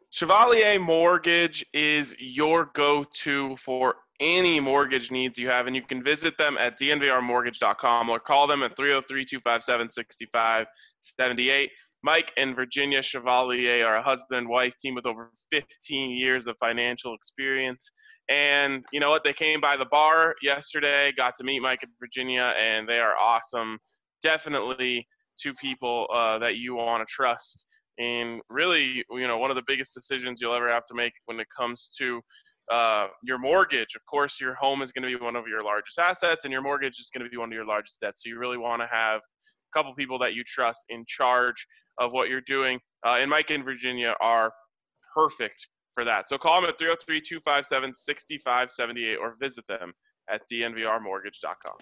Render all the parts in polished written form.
Chevalier Mortgage is your go-to for any mortgage needs you have, and you can visit them at dnvrmortgage.com or call them at 303-257-6578. Mike and Virginia Chevalier are a husband and wife team with over 15 years of financial experience. And you know what? They came by the bar yesterday, got to meet Mike and Virginia, and they are awesome. Definitely two people that you want to trust. And really, one of the biggest decisions you'll ever have to make when it comes to your mortgage. Of course, your home is going to be one of your largest assets, and your mortgage is going to be one of your largest debts. So you really want to have a couple people that you trust in charge of what you're doing. And Mike and Virginia are perfect for that. So call them at 303-257-6578 or visit them at dnvrmortgage.com.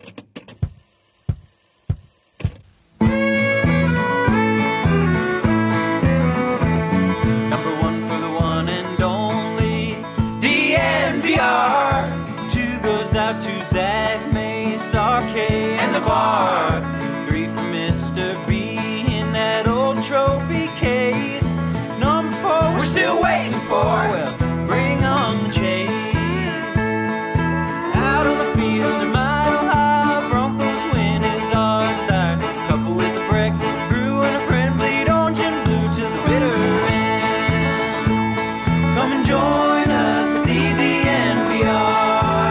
To Zach, Mace, RK, and the bar. 3 for Mr. B in that old trophy case. Number 4 we're still waiting for. Well, bring on the chase. Out on the field in Mile High, Broncos win is our desire. Couple with a break, brew and a friend, bleed orange and blue to the bitter end. Come and join us at the DNVR.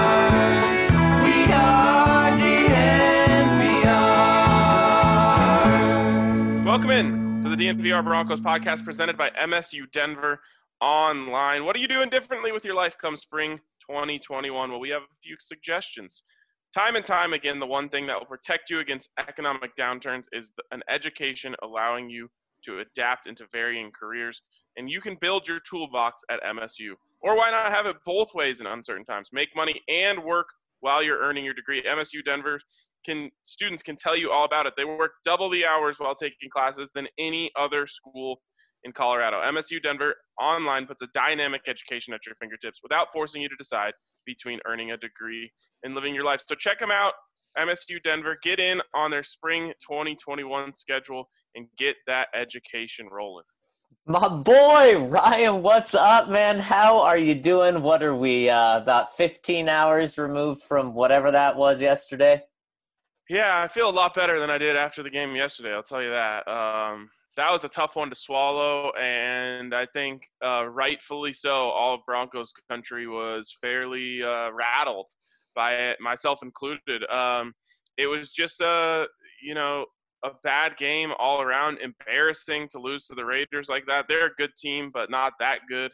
Welcome in to the DNVR Broncos podcast presented by MSU Denver Online. What are you doing differently with your life come spring 2021? Well, we have a few suggestions. Time and time again, the one thing that will protect you against economic downturns is an education allowing you to adapt into varying careers. And you can build your toolbox at MSU. Or why not have it both ways in uncertain times? Make money and work while you're earning your degree. MSU Denver students can tell you all about it. They work double the hours while taking classes than any other school in Colorado. MSU Denver Online puts a dynamic education at your fingertips without forcing you to decide between earning a degree and living your life. So check them out, MSU Denver. Get in on their spring 2021 schedule and get that education rolling. My boy, Ryan, what's up, man? How are you doing? What are we, about 15 hours removed from whatever that was yesterday? Yeah, I feel a lot better than I did after the game yesterday, I'll tell you that. That was a tough one to swallow, and I think rightfully so, all of Broncos country was fairly rattled by it, myself included. It was just a bad game all around, embarrassing to lose to the Raiders like that. They're a good team, but not that good.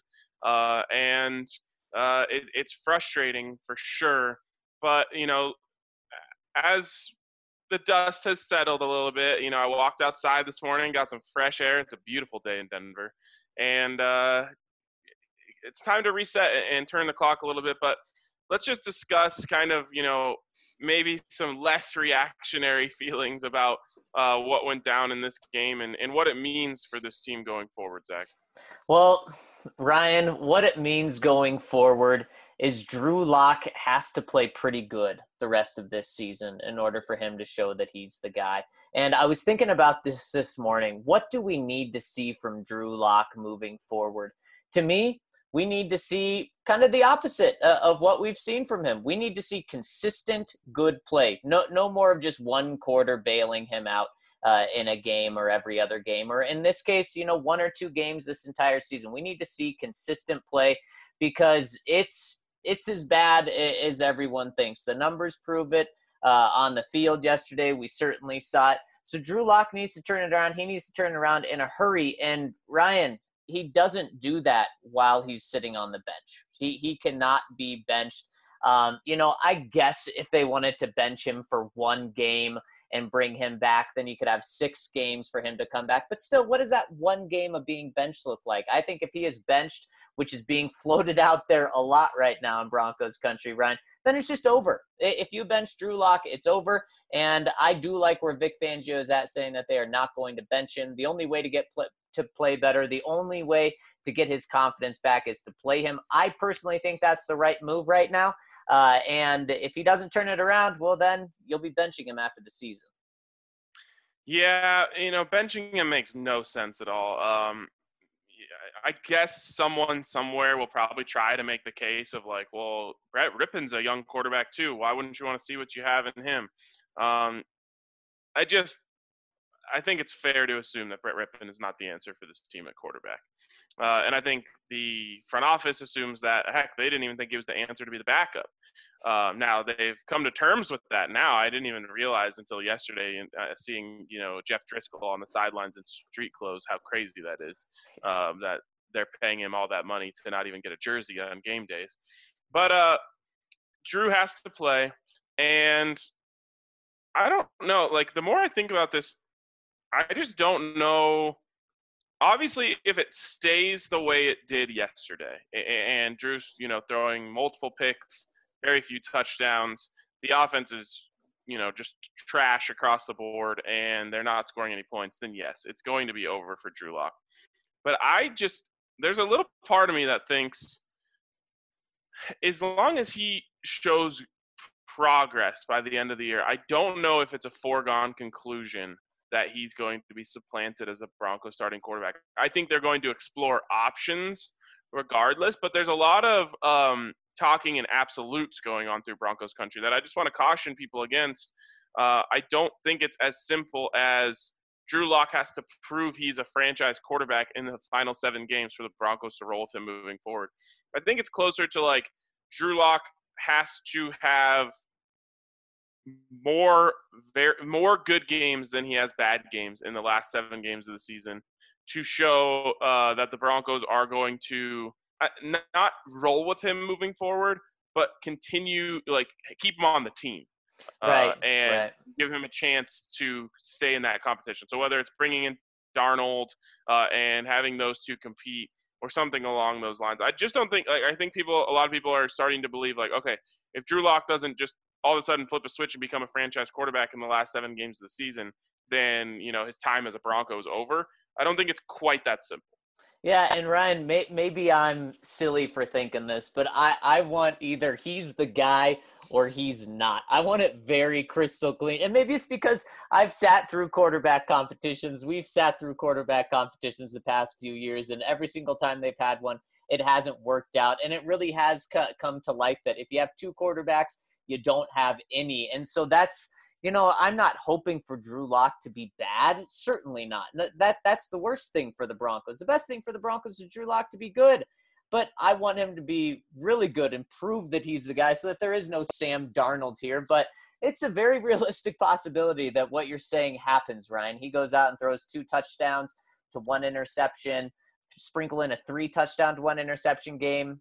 It's frustrating for sure. But, as the dust has settled a little bit, I walked outside this morning, got some fresh air. It's a beautiful day in Denver. And it's time to reset and turn the clock a little bit. But let's just discuss kind of, maybe some less reactionary feelings about what went down in this game and what it means for this team going forward, Zach. Well, Ryan, what it means going forward is Drew Lock has to play pretty good the rest of this season in order for him to show that he's the guy. And I was thinking about this morning. What do we need to see from Drew Lock moving forward? To me, we need to see kind of the opposite of what we've seen from him. We need to see consistent, good play. No more of just one quarter bailing him out in a game or every other game. Or in this case, 1 or 2 games this entire season. We need to see consistent play because it's as bad as everyone thinks. The numbers prove it. On the field yesterday, we certainly saw it. So Drew Lock needs to turn it around. He needs to turn it around in a hurry. And Ryan, he doesn't do that while he's sitting on the bench. He cannot be benched. I guess if they wanted to bench him for 1 game and bring him back, then you could have 6 games for him to come back. But still, what does that 1 game of being benched look like? I think if he is benched, which is being floated out there a lot right now in Broncos country, Ryan, then it's just over. If you bench Drew Lock, it's over. And I do like where Vic Fangio is at, saying that they are not going to bench him. The only way to get to play better, the only way to get his confidence back is to play him. I personally think that's the right move right now. And if he doesn't turn it around, well, then you'll be benching him after the season. Yeah, benching him makes no sense at all. I guess someone somewhere will probably try to make the case of like, well, Brett Rippon's a young quarterback too. Why wouldn't you want to see what you have in him? Um, I think it's fair to assume that Brett Rippon is not the answer for this team at quarterback. And I think the front office assumes that, heck, they didn't even think he was the answer to be the backup. Now they've come to terms with that. Now I didn't even realize until yesterday, seeing Jeff Driscoll on the sidelines in street clothes, how crazy that is. That they're paying him all that money to not even get a jersey on game days. But Drew has to play, and I don't know. Like, the more I think about this, I just don't know. Obviously, if it stays the way it did yesterday, and Drew's, throwing multiple picks, very few touchdowns, the offense is, just trash across the board, and they're not scoring any points, then yes, it's going to be over for Drew Lock. But there's a little part of me that thinks, as long as he shows progress by the end of the year, I don't know if it's a foregone conclusion that he's going to be supplanted as a Broncos starting quarterback. I think they're going to explore options regardless, but there's a lot of talking in absolutes going on through Broncos country that I just want to caution people against. I don't think it's as simple as Drew Lock has to prove he's a franchise quarterback in the final 7 games for the Broncos to roll with him moving forward. I think it's closer to like Drew Lock has to have more good games than he has bad games in the last 7 games of the season to show that the Broncos are going to not roll with him moving forward, but continue, like, keep him on the team. And give him a chance to stay in that competition. So whether it's bringing in Darnold and having those two compete or something along those lines, I just don't think, I think a lot of people are starting to believe, like, okay, if Drew Lock doesn't just all of a sudden flip a switch and become a franchise quarterback in the last 7 games of the season, then, his time as a Bronco is over. I don't think it's quite that simple. Yeah, and Ryan, maybe I'm silly for thinking this, but I want either he's the guy or he's not. I want it very crystal clean. And maybe it's because I've sat through quarterback competitions. We've sat through quarterback competitions the past few years, and every single time they've had one, it hasn't worked out. And it really has come to light that if you have 2 quarterbacks, you don't have any. And so that's, I'm not hoping for Drew Lock to be bad. Certainly not. That's the worst thing for the Broncos. The best thing for the Broncos is Drew Lock to be good. But I want him to be really good and prove that he's the guy so that there is no Sam Darnold here. But it's a very realistic possibility that what you're saying happens, Ryan. He goes out and throws 2 touchdowns to 1 interception, sprinkle in a 3 touchdown to 1 interception game.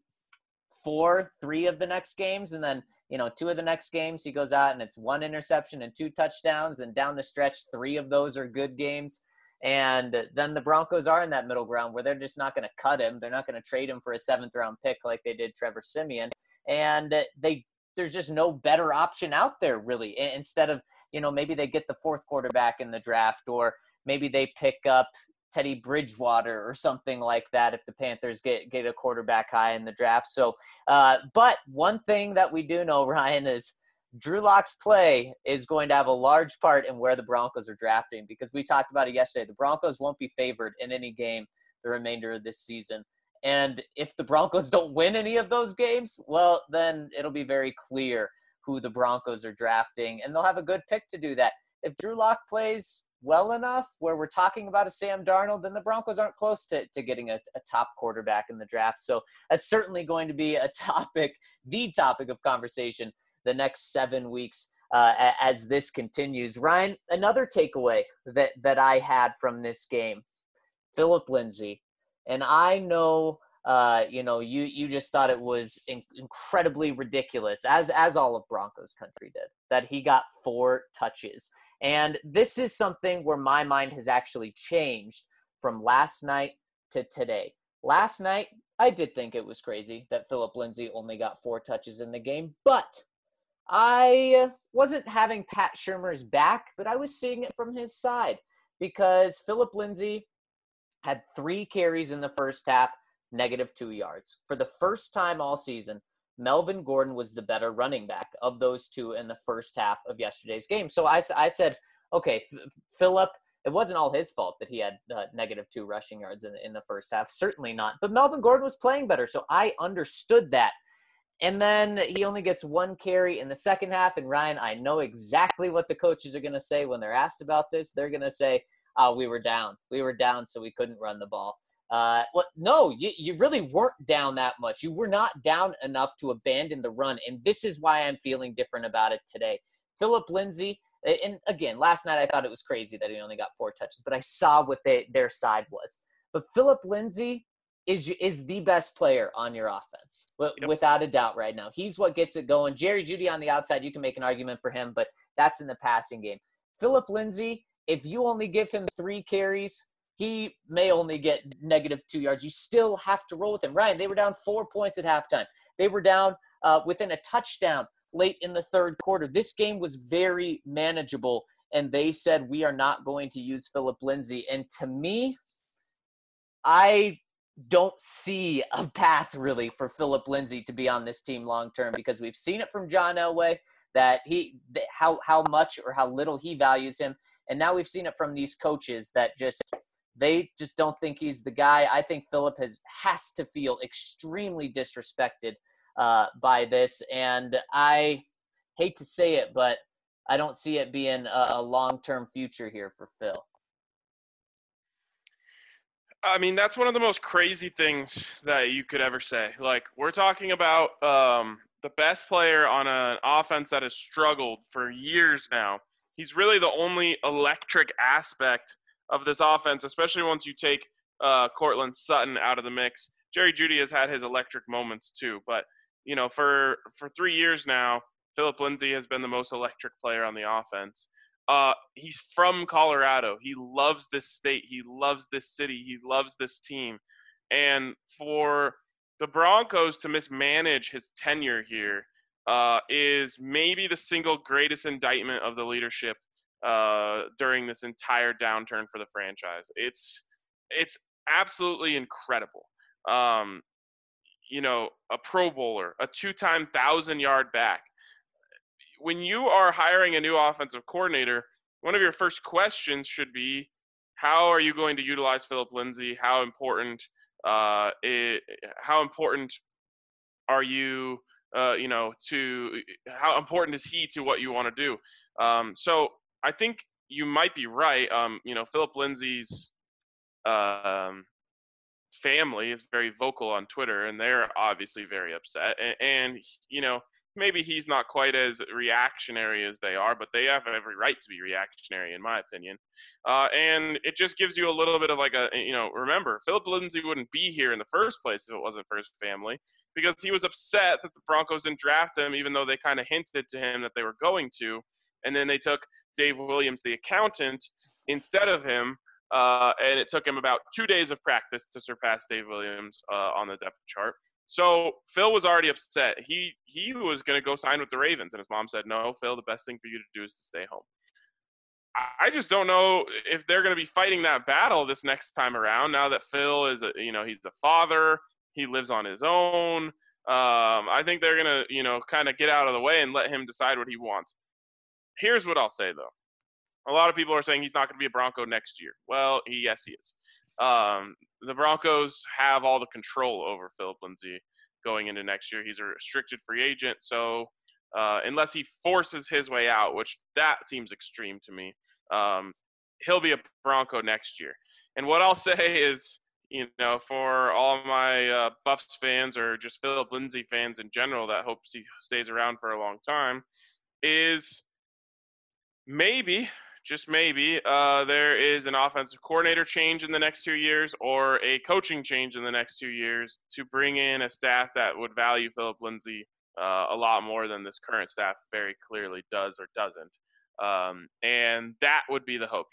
3 of the next games, and then 2 of the next games he goes out and it's 1 interception and 2 touchdowns, and down the stretch 3 of those are good games. And then the Broncos are in that middle ground where they're just not going to cut him. They're not going to trade him for a 7th round pick like they did Trevor Siemian, and there's just no better option out there really. Instead of maybe they get the 4th quarterback in the draft, or maybe they pick up Teddy Bridgewater or something like that if the Panthers get a quarterback high in the draft. So, but one thing that we do know, Ryan, is Drew Lock's play is going to have a large part in where the Broncos are drafting, because we talked about it yesterday. The Broncos won't be favored in any game the remainder of this season. And if the Broncos don't win any of those games, well, then it'll be very clear who the Broncos are drafting, and they'll have a good pick to do that. If Drew Lock plays well enough where we're talking about a Sam Darnold, then the Broncos aren't close to getting a top quarterback in the draft. So that's certainly going to be the topic of conversation the next 7 weeks as this continues. Ryan, another takeaway that I had from this game, Phillip Lindsay. And I know, you just thought it was incredibly ridiculous, as all of Broncos country did, that he got 4 touches. And this is something where my mind has actually changed from last night to today. Last night, I did think it was crazy that Phillip Lindsay only got 4 touches in the game, but I wasn't having Pat Shurmur's back, but I was seeing it from his side, because Phillip Lindsay had 3 carries in the first half, -2 yards. For the first time all season, Melvin Gordon was the better running back of those 2 in the first half of yesterday's game. So I said, okay, Phillip, It wasn't all his fault that he had -2 rushing yards in the first half. Certainly not. But Melvin Gordon was playing better, so I understood that. And then he only gets 1 carry in the second half. And Ryan, I know exactly what the coaches are going to say when they're asked about this. They're going to say, we were down. We were down, so we couldn't run the ball. No, you really weren't down that much. You were not down enough to abandon the run. And this is why I'm feeling different about it today. Phillip Lindsay, and again, last night I thought it was crazy that he only got 4 touches, but I saw what their side was. But Phillip Lindsay is the best player on your offense, without a doubt right now. He's what gets it going. Jerry Jeudy on the outside, you can make an argument for him, but that's in the passing game. Phillip Lindsay, if you only give him 3 carries, he may only get -2 yards. You still have to roll with him. Ryan, they were down 4 points at halftime. They were down within a touchdown late in the third quarter. This game was very manageable, and they said, we are not going to use Phillip Lindsay. And to me, I don't see a path really for Phillip Lindsay to be on this team long term, because we've seen it from John Elway that how much or how little he values him, and now we've seen it from these coaches that they just don't think he's the guy. I think Phillip has to feel extremely disrespected by this, and I hate to say it, but I don't see it being a long-term future here for Phil. I mean, that's one of the most crazy things that you could ever say. Like, we're talking about the best player on an offense that has struggled for years now. He's really the only electric aspect of this offense, especially once you take Courtland Sutton out of the mix. Jerry Jeudy has had his electric moments too, but for 3 years now, Phillip Lindsay has been the most electric player on the offense. He's from Colorado. He loves this state. He loves this city. He loves this team. And for the Broncos to mismanage his tenure here is maybe the single greatest indictment of the leadership during this entire downturn for the franchise. It's absolutely incredible. A Pro Bowler, a 2-time 1,000-yard back. When you are hiring a new offensive coordinator, one of your first questions should be, how are you going to utilize Phillip Lindsay? How important are you, how important is he to what you want to do? So I think you might be right. Phillip Lindsay's family is very vocal on Twitter, and they're obviously very upset. And maybe he's not quite as reactionary as they are, but they have every right to be reactionary, in my opinion. And it just gives you a little bit of remember, Phillip Lindsay wouldn't be here in the first place if it wasn't for his family, because he was upset that the Broncos didn't draft him, even though they kind of hinted to him that they were going to. And then they took Dave Williams, the accountant, instead of him. And it took him about 2 days of practice to surpass Dave Williams on the depth chart. So Phil was already upset. He was going to go sign with the Ravens, and his mom said, no, Phil, the best thing for you to do is to stay home. I just don't know if they're going to be fighting that battle this next time around, now that Phil is he's the father. He lives on his own. I think they're going to, kind of get out of the way and let him decide what he wants. Here's what I'll say, though. A lot of people are saying he's not going to be a Bronco next year. Well, yes, he is. The Broncos have all the control over Phillip Lindsay going into next year. He's a restricted free agent, so unless he forces his way out, which that seems extreme to me, he'll be a Bronco next year. And what I'll say is, for all my Buffs fans or just Phillip Lindsay fans in general that hopes he stays around for a long time, is maybe – just maybe, there is an offensive coordinator change in the next 2 years, or a coaching change in the next 2 years, to bring in a staff that would value Phillip Lindsay a lot more than this current staff very clearly does or doesn't. And that would be the hope.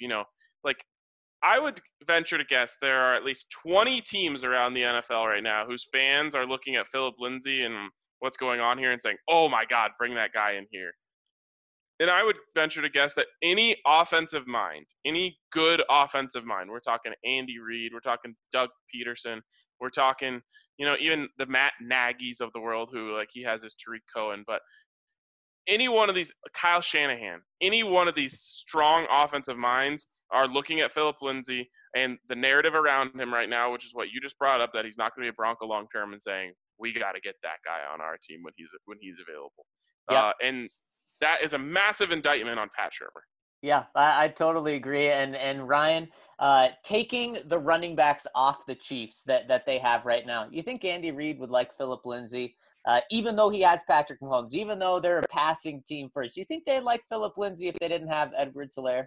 I would venture to guess there are at least 20 teams around the NFL right now whose fans are looking at Phillip Lindsay and what's going on here and saying, oh my God, bring that guy in here. And I would venture to guess that any offensive mind, any good offensive mind, we're talking Andy Reid, we're talking Doug Peterson, we're talking, even the Matt Nagy's of the world, who he has his Tariq Cohen, but any one of these, Kyle Shanahan, any one of these strong offensive minds are looking at Phillip Lindsay and the narrative around him right now, which is what you just brought up, that he's not going to be a Bronco long term, and saying we got to get that guy on our team when he's available. Yep. And that is a massive indictment on Pat Shurmur. Yeah, I totally agree. And Ryan, taking the running backs off the Chiefs that they have right now, you think Andy Reid would like Phillip Lindsay, even though he has Patrick Mahomes, even though they're a passing team first? Do you think they'd like Phillip Lindsay if they didn't have Edwards-Helaire?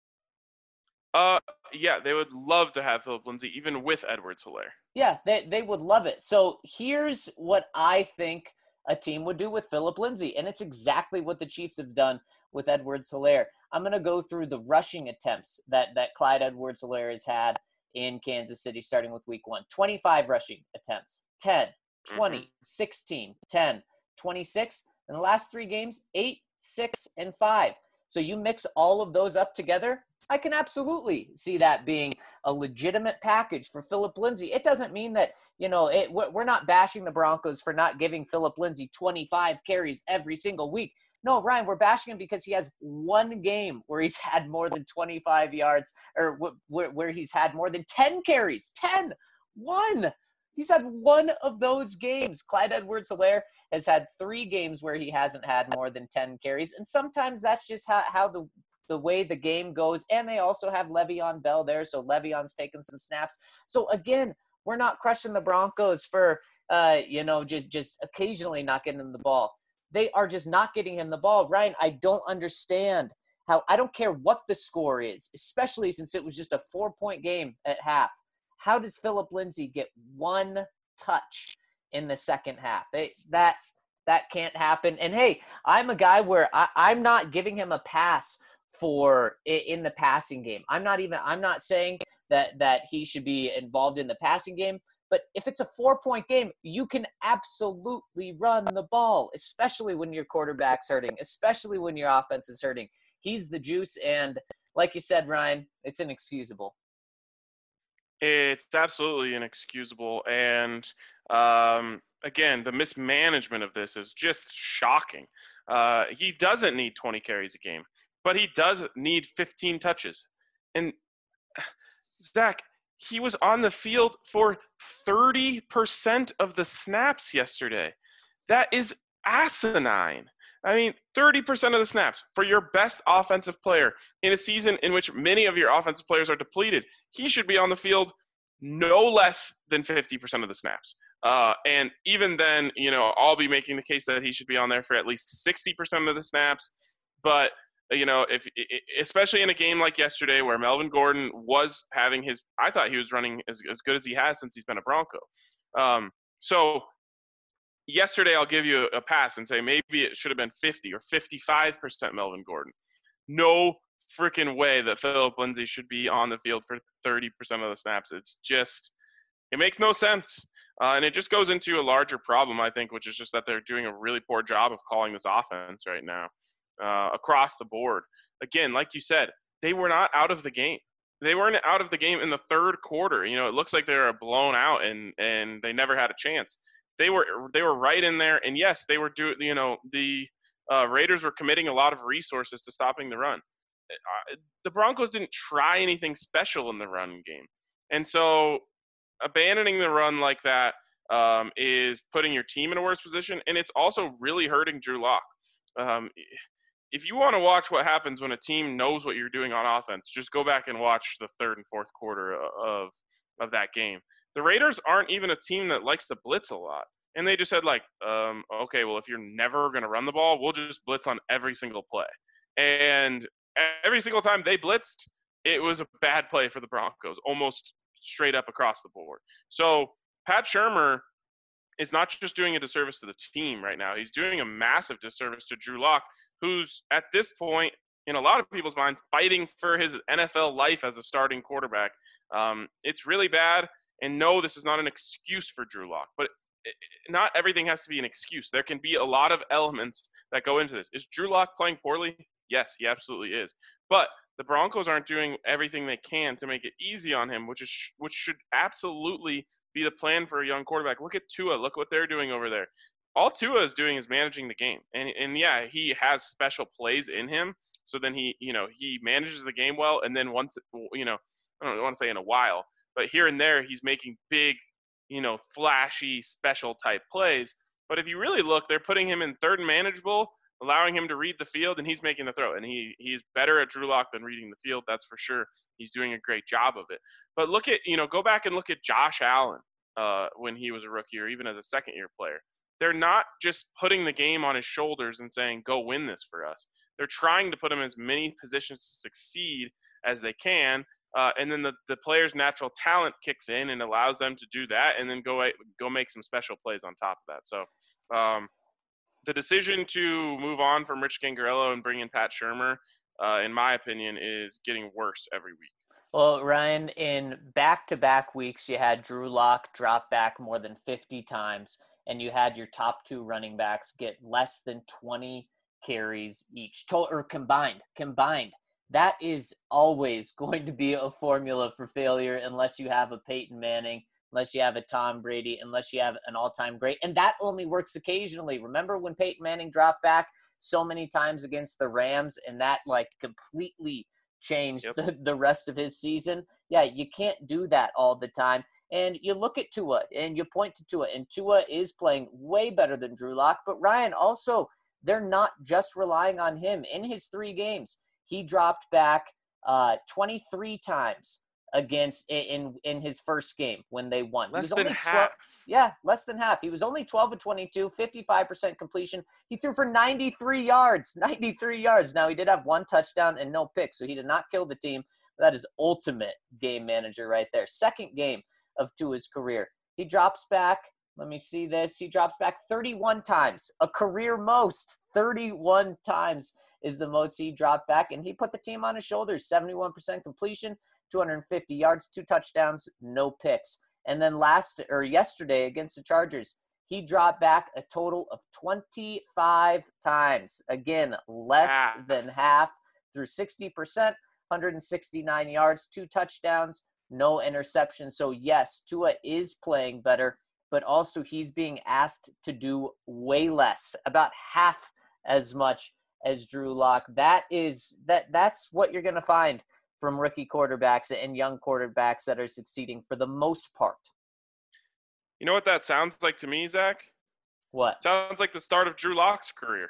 Yeah, they would love to have Phillip Lindsay, even with Edwards-Helaire. Yeah, they would love it. So here's what I think a team would do with Phillip Lindsay, and it's exactly what the Chiefs have done with Edwards-Helaire. I'm going to go through the rushing attempts that Clyde Edwards-Helaire has had in Kansas City starting with week 1. 25 rushing attempts, 10, 20, 16, 10, 26. In the last 3 games, 8, 6, and 5. So you mix all of those up together, I can absolutely see that being a legitimate package for Phillip Lindsay. It doesn't mean that, we're not bashing the Broncos for not giving Phillip Lindsay 25 carries every single week. No, Ryan, we're bashing him because he has one game where he's had more than 25 yards, or where he's had more than 10 carries. 10! 1! He's had one of those games. Clyde Edwards-Helaire has had 3 games where he hasn't had more than 10 carries, and sometimes that's just how the way the game goes. And they also have Le'Veon Bell there, so Le'Veon's taking some snaps. So again, we're not crushing the Broncos for just occasionally not getting them the ball. They are just not getting him the ball. Ryan, I don't understand how – I don't care what the score is, especially since it was just a 4-point game at half. How does Phillip Lindsay get 1 touch in the second half? That can't happen. And, hey, I'm a guy where I'm not giving him a pass for in the passing game. I'm not saying that he should be involved in the passing game. But if it's a 4-point game, you can absolutely run the ball, especially when your quarterback's hurting, especially when your offense is hurting. He's the juice, and like you said, Ryan, it's inexcusable. It's absolutely inexcusable, and again, the mismanagement of this is just shocking. He doesn't need 20 carries a game, but he does need 15 touches. And Zach, he was on the field for 30% of the snaps yesterday. That is asinine. I mean, 30% of the snaps for your best offensive player in a season in which many of your offensive players are depleted. He should be on the field no less than 50% of the snaps. And even then, I'll be making the case that he should be on there for at least 60% of the snaps. But if especially in a game like yesterday where Melvin Gordon was having I thought he was running as good as he has since he's been a Bronco. So yesterday I'll give you a pass and say maybe it should have been 50 or 55% Melvin Gordon. No freaking way that Phillip Lindsay should be on the field for 30% of the snaps. It makes no sense. And it just goes into a larger problem, I think, which is just that they're doing a really poor job of calling this offense right now. Across the board. Again, like you said, they were not out of the game. They weren't out of the game in the third quarter. It looks like they were blown out and they never had a chance. They were right in there. And yes, they were the Raiders were committing a lot of resources to stopping the run. The Broncos didn't try anything special in the run game. And so abandoning the run like that is putting your team in a worse position. And it's also really hurting Drew Lock. If you want to watch what happens when a team knows what you're doing on offense, just go back and watch the third and fourth quarter of that game. The Raiders aren't even a team that likes to blitz a lot. And they just said, okay, well, if you're never going to run the ball, we'll just blitz on every single play. And every single time they blitzed, it was a bad play for the Broncos, almost straight up across the board. So Pat Shurmur is not just doing a disservice to the team right now. He's doing a massive disservice to Drew Lock, who's at this point, in a lot of people's minds, fighting for his NFL life as a starting quarterback. It's really bad. And no, this is not an excuse for Drew Lock, but not everything has to be an excuse. There can be a lot of elements that go into this. Is Drew Lock playing poorly? Yes, he absolutely is. But the Broncos aren't doing everything they can to make it easy on him, which should absolutely be the plan for a young quarterback. Look at Tua. Look what they're doing over there. all Tua is doing is managing the game. And yeah, he has special plays in him. So then he manages the game well. And then once, I don't want to say in a while, but here and there, he's making big, flashy, special type plays. But if you really look, they're putting him in third and manageable, allowing him to read the field, and he's making the throw. And he's better at Drew Lock than reading the field, that's for sure. He's doing a great job of it. But go back and look at Josh Allen when he was a rookie or even as a second-year player. They're not just putting the game on his shoulders and saying, go win this for us. They're trying to put him in as many positions to succeed as they can. And then the player's natural talent kicks in and allows them to do that and then go make some special plays on top of that. So the decision to move on from Rich Gangarello and bring in Pat Shurmur, in my opinion, is getting worse every week. Well, Ryan, in back-to-back weeks, you had Drew Lock drop back more than 50 times, and you had your top two running backs get less than 20 carries each, combined. That is always going to be a formula for failure unless you have a Peyton Manning, unless you have a Tom Brady, unless you have an all-time great. And that only works occasionally. Remember when Peyton Manning dropped back so many times against the Rams, and that completely changed the rest of his season? Yeah, you can't do that all the time. And you look at Tua, and you point to Tua, and Tua is playing way better than Drew Lock. But Ryan, also, they're not just relying on him. In his 3 games, he dropped back 23 times in his first game when they won. Less than half. Less than half. He was only 12 of 22, 55% completion. He threw for 93 yards. 93 yards. Now, he did have 1 touchdown and no picks, so he did not kill the team. That is ultimate game manager right there. Second game of Tua's career. He drops back. Let me see this. He drops back 31 times, a career most. 31 times is the most he dropped back, and he put the team on his shoulders. 71% completion, 250 yards, 2 touchdowns, no picks. And then yesterday against the Chargers, he dropped back a total of 25 times. Again, less than half, through 60%, 169 yards, 2 touchdowns, no interception. So yes, Tua is playing better, but also he's being asked to do way less, about half as much as Drew Lock. That's what you're going to find from rookie quarterbacks and young quarterbacks that are succeeding for the most part. You know what that sounds like to me, Zach? What? Sounds like the start of Drew Lock's career.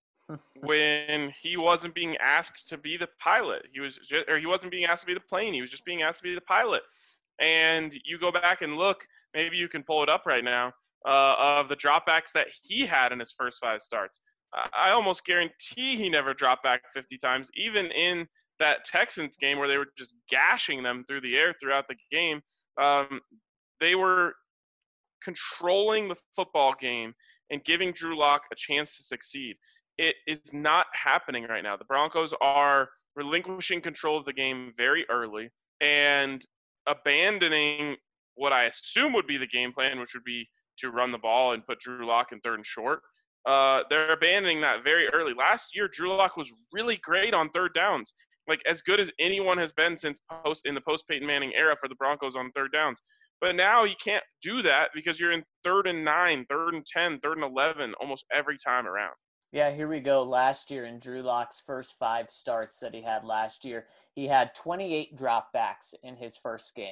When he wasn't being asked to be the pilot. He wasn't being asked to be the plane. He was just being asked to be the pilot. And you go back and look, maybe you can pull it up right now, of the dropbacks that he had in his first 5 starts. I almost guarantee he never dropped back 50 times, even in that Texans game where they were just gashing them through the air throughout the game. They were controlling the football game and giving Drew Lock a chance to succeed. It is not happening right now. The Broncos are relinquishing control of the game very early and abandoning what I assume would be the game plan, which would be to run the ball and put Drew Lock in 3rd and short. They're abandoning that very early. Last year, Drew Lock was really great on 3rd downs, like as good as anyone has been in the post-Peyton Manning era for the Broncos on 3rd downs. But now you can't do that because you're in 3rd and 9, 3rd and 10, 3rd and 11 almost every time around. Yeah, here we go. Last year in Drew Lock's first 5 starts that he had last year, he had 28 dropbacks in his first game,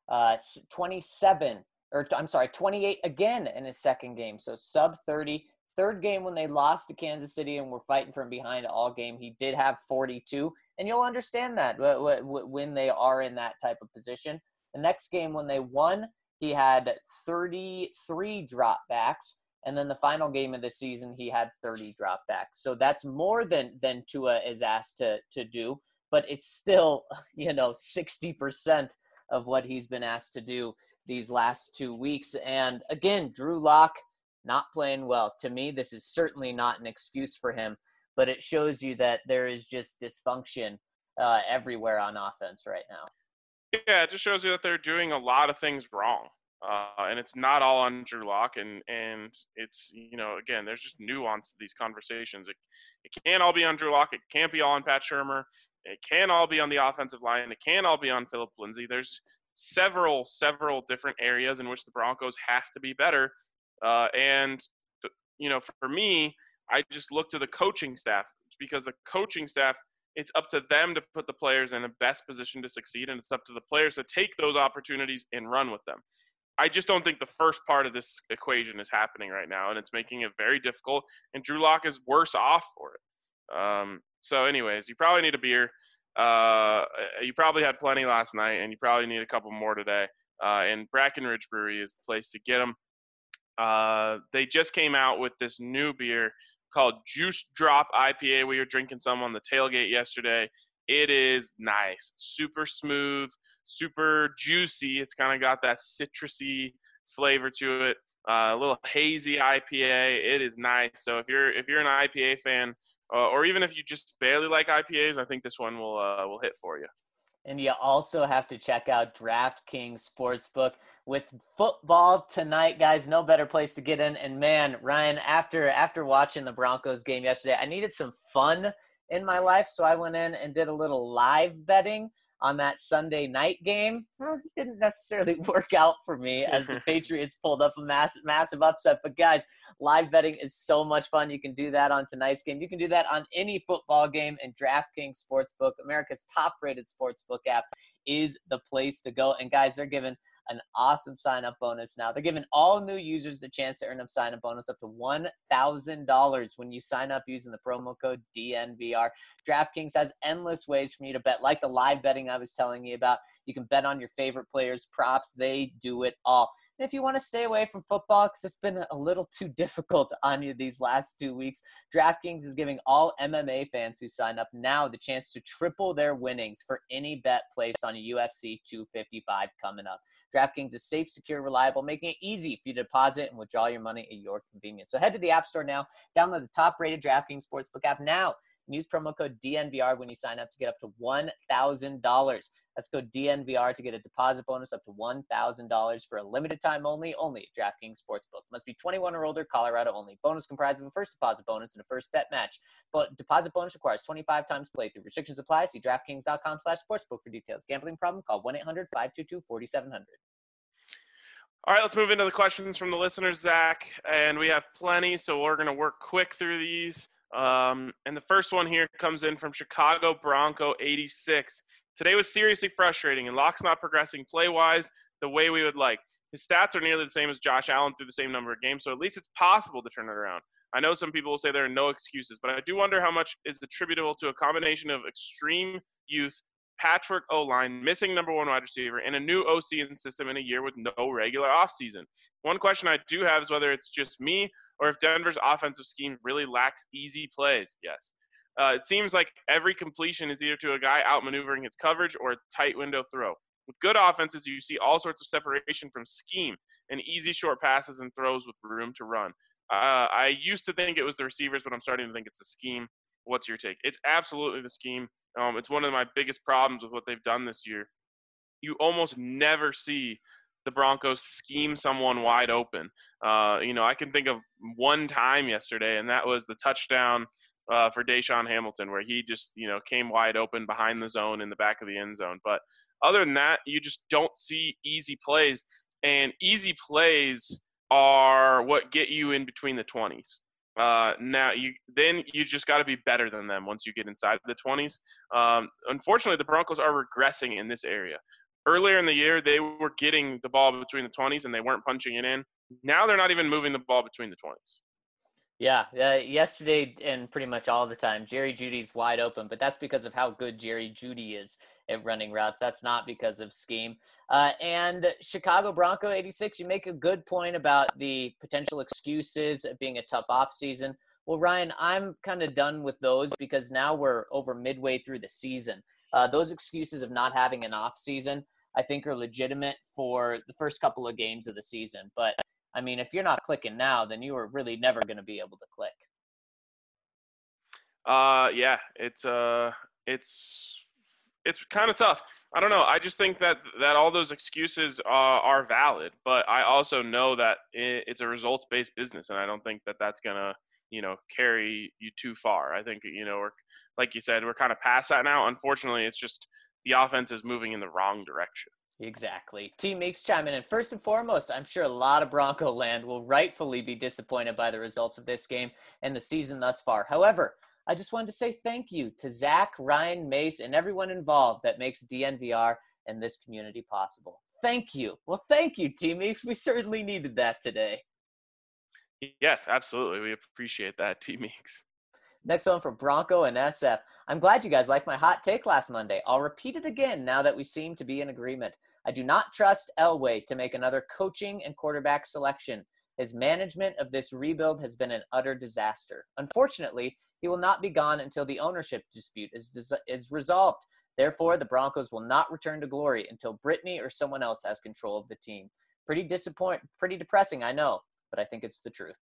28 again in his second game. So sub 30. Third game when they lost to Kansas City and were fighting from behind all game, he did have 42. And you'll understand that when they are in that type of position. The next game when they won, he had 33 dropbacks. And then the final game of the season, he had 30 dropbacks. So that's more than Tua is asked to do. But it's still, 60% of what he's been asked to do these last 2 weeks. And again, Drew Lock not playing well. To me, this is certainly not an excuse for him. But it shows you that there is just dysfunction everywhere on offense right now. Yeah, it just shows you that they're doing a lot of things wrong. And it's not all on Drew Lock, and it's, again, there's just nuance to these conversations. It can't all be on Drew Lock. It can't be all on Pat Shurmur. It can't all be on the offensive line. It can't all be on Phillip Lindsay. There's several different areas in which the Broncos have to be better. And for me, I just look to the coaching staff, because the coaching staff, it's up to them to put the players in the best position to succeed, and it's up to the players to take those opportunities and run with them. I just don't think the first part of this equation is happening right now, and it's making it very difficult, and Drew Lock is worse off for it. So anyways, you probably need a beer. You probably had plenty last night, and you probably need a couple more today. And Brackenridge Brewery is the place to get them. They just came out with this new beer called Juice Drop IPA. We were drinking some on the tailgate yesterday. It is nice, super smooth, super juicy. It's kind of got that citrusy flavor to it. A little hazy IPA. It is nice. So if you're an IPA fan, or even if you just barely like IPAs, I think this one will hit for you. And you also have to check out DraftKings Sportsbook with football tonight, guys. No better place to get in. And man, Ryan, after watching the Broncos game yesterday, I needed some fun in my life, so I went in and did a little live betting on that Sunday night game. It didn't necessarily work out for me as the Patriots pulled up a massive upset. But guys, live betting is so much fun. You can do that on tonight's game. You can do that on any football game, and DraftKings Sportsbook, America's top-rated sportsbook app, is the place to go. And guys, they're giving an awesome sign-up bonus now. They're giving all new users a chance to earn a sign-up bonus up to $1,000 when you sign up using the promo code DNVR. DraftKings has endless ways for you to bet, like the live betting I was telling you about. You can bet on your favorite players' props. They do it all. And if you want to stay away from football because it's been a little too difficult on you these last 2 weeks, DraftKings is giving all MMA fans who sign up now the chance to triple their winnings for any bet placed on UFC 255 coming up. DraftKings is safe, secure, reliable, making it easy for you to deposit and withdraw your money at your convenience. So head to the App Store now, download the top-rated DraftKings Sportsbook app now, and use promo code DNVR when you sign up to get up to $1,000. That's code DNVR to get a deposit bonus up to $1,000 for a limited time only at DraftKings Sportsbook. Must be 21 or older, Colorado only. Bonus comprised of a first deposit bonus and a first bet match. But deposit bonus requires 25 times playthrough. Restrictions apply. See DraftKings.com/sportsbook for details. Gambling problem? Call 1-800-522-4700. All right, let's move into the questions from the listeners, Zach. And we have plenty, so we're going to work quick through these. And the first one here comes in from Chicago Bronco 86. Today was seriously frustrating, and Lock's not progressing play-wise the way we would like. His stats are nearly the same as Josh Allen through the same number of games, so at least it's possible to turn it around. I know some people will say there are no excuses, but I do wonder how much is attributable to a combination of extreme youth, patchwork O-line, missing number one wide receiver, and a new OC and system in a year with no regular offseason. One question I do have is whether it's just me or if Denver's offensive scheme really lacks easy plays. Yes. It seems like every completion is either to a guy outmaneuvering his coverage or a tight window throw. With good offenses, you see all sorts of separation from scheme and easy short passes and throws with room to run. I used to think it was the receivers, but I'm starting to think it's the scheme. What's your take? It's absolutely the scheme. It's one of my biggest problems with what they've done this year. You almost never see the Broncos scheme someone wide open. I can think of one time yesterday, and that was the touchdown for Deshaun Hamilton, where he just, came wide open behind the zone in the back of the end zone. But other than that, you just don't see easy plays. And easy plays are what get you in between the 20s. Now you just got to be better than them once you get inside the 20s. Unfortunately, the Broncos are regressing in this area. Earlier in the year, they were getting the ball between the 20s and they weren't punching it in. Now they're not even moving the ball between the 20s. Yeah, yesterday and pretty much all the time, Jerry Jeudy's wide open, but that's because of how good Jerry Jeudy is at running routes. That's not because of scheme. And Chicago Bronco 86, you make a good point about the potential excuses of being a tough offseason. Well, Ryan, I'm kind of done with those because now we're over midway through the season. Those excuses of not having an offseason, I think, are legitimate for the first couple of games of the season. But I mean, if you're not clicking now, then you are really never going to be able to click. Yeah, it's kind of tough. I don't know. I just think that all those excuses are valid, but I also know that it's a results-based business, and I don't think that that's gonna, carry you too far. I think, we're, like you said, we're kind of past that now. Unfortunately, it's just the offense is moving in the wrong direction. Exactly. Team Meeks chiming in. First and foremost, I'm sure a lot of Bronco land will rightfully be disappointed by the results of this game and the season thus far. However, I just wanted to say thank you to Zach, Ryan, Mace, and everyone involved that makes DNVR and this community possible. Thank you. Well, thank you, Team Meeks. We certainly needed that today. Yes, absolutely. We appreciate that, Team Meeks. Next one for Bronco and SF. I'm glad you guys liked my hot take last Monday. I'll repeat it again now that we seem to be in agreement. I do not trust Elway to make another coaching and quarterback selection. His management of this rebuild has been an utter disaster. Unfortunately, he will not be gone until the ownership dispute is resolved. Therefore, the Broncos will not return to glory until Brittany or someone else has control of the team. Pretty depressing, I know, but I think it's the truth.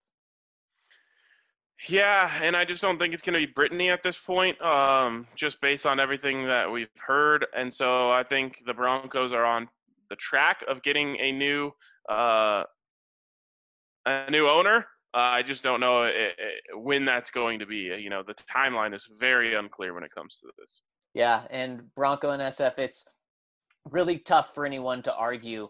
Yeah, and I just don't think it's going to be Brittany at this point, just based on everything that we've heard. And so I think the Broncos are on the track of getting a new owner. I just don't know when that's going to be. The timeline is very unclear when it comes to this. Yeah, and Bronco and SF, it's really tough for anyone to argue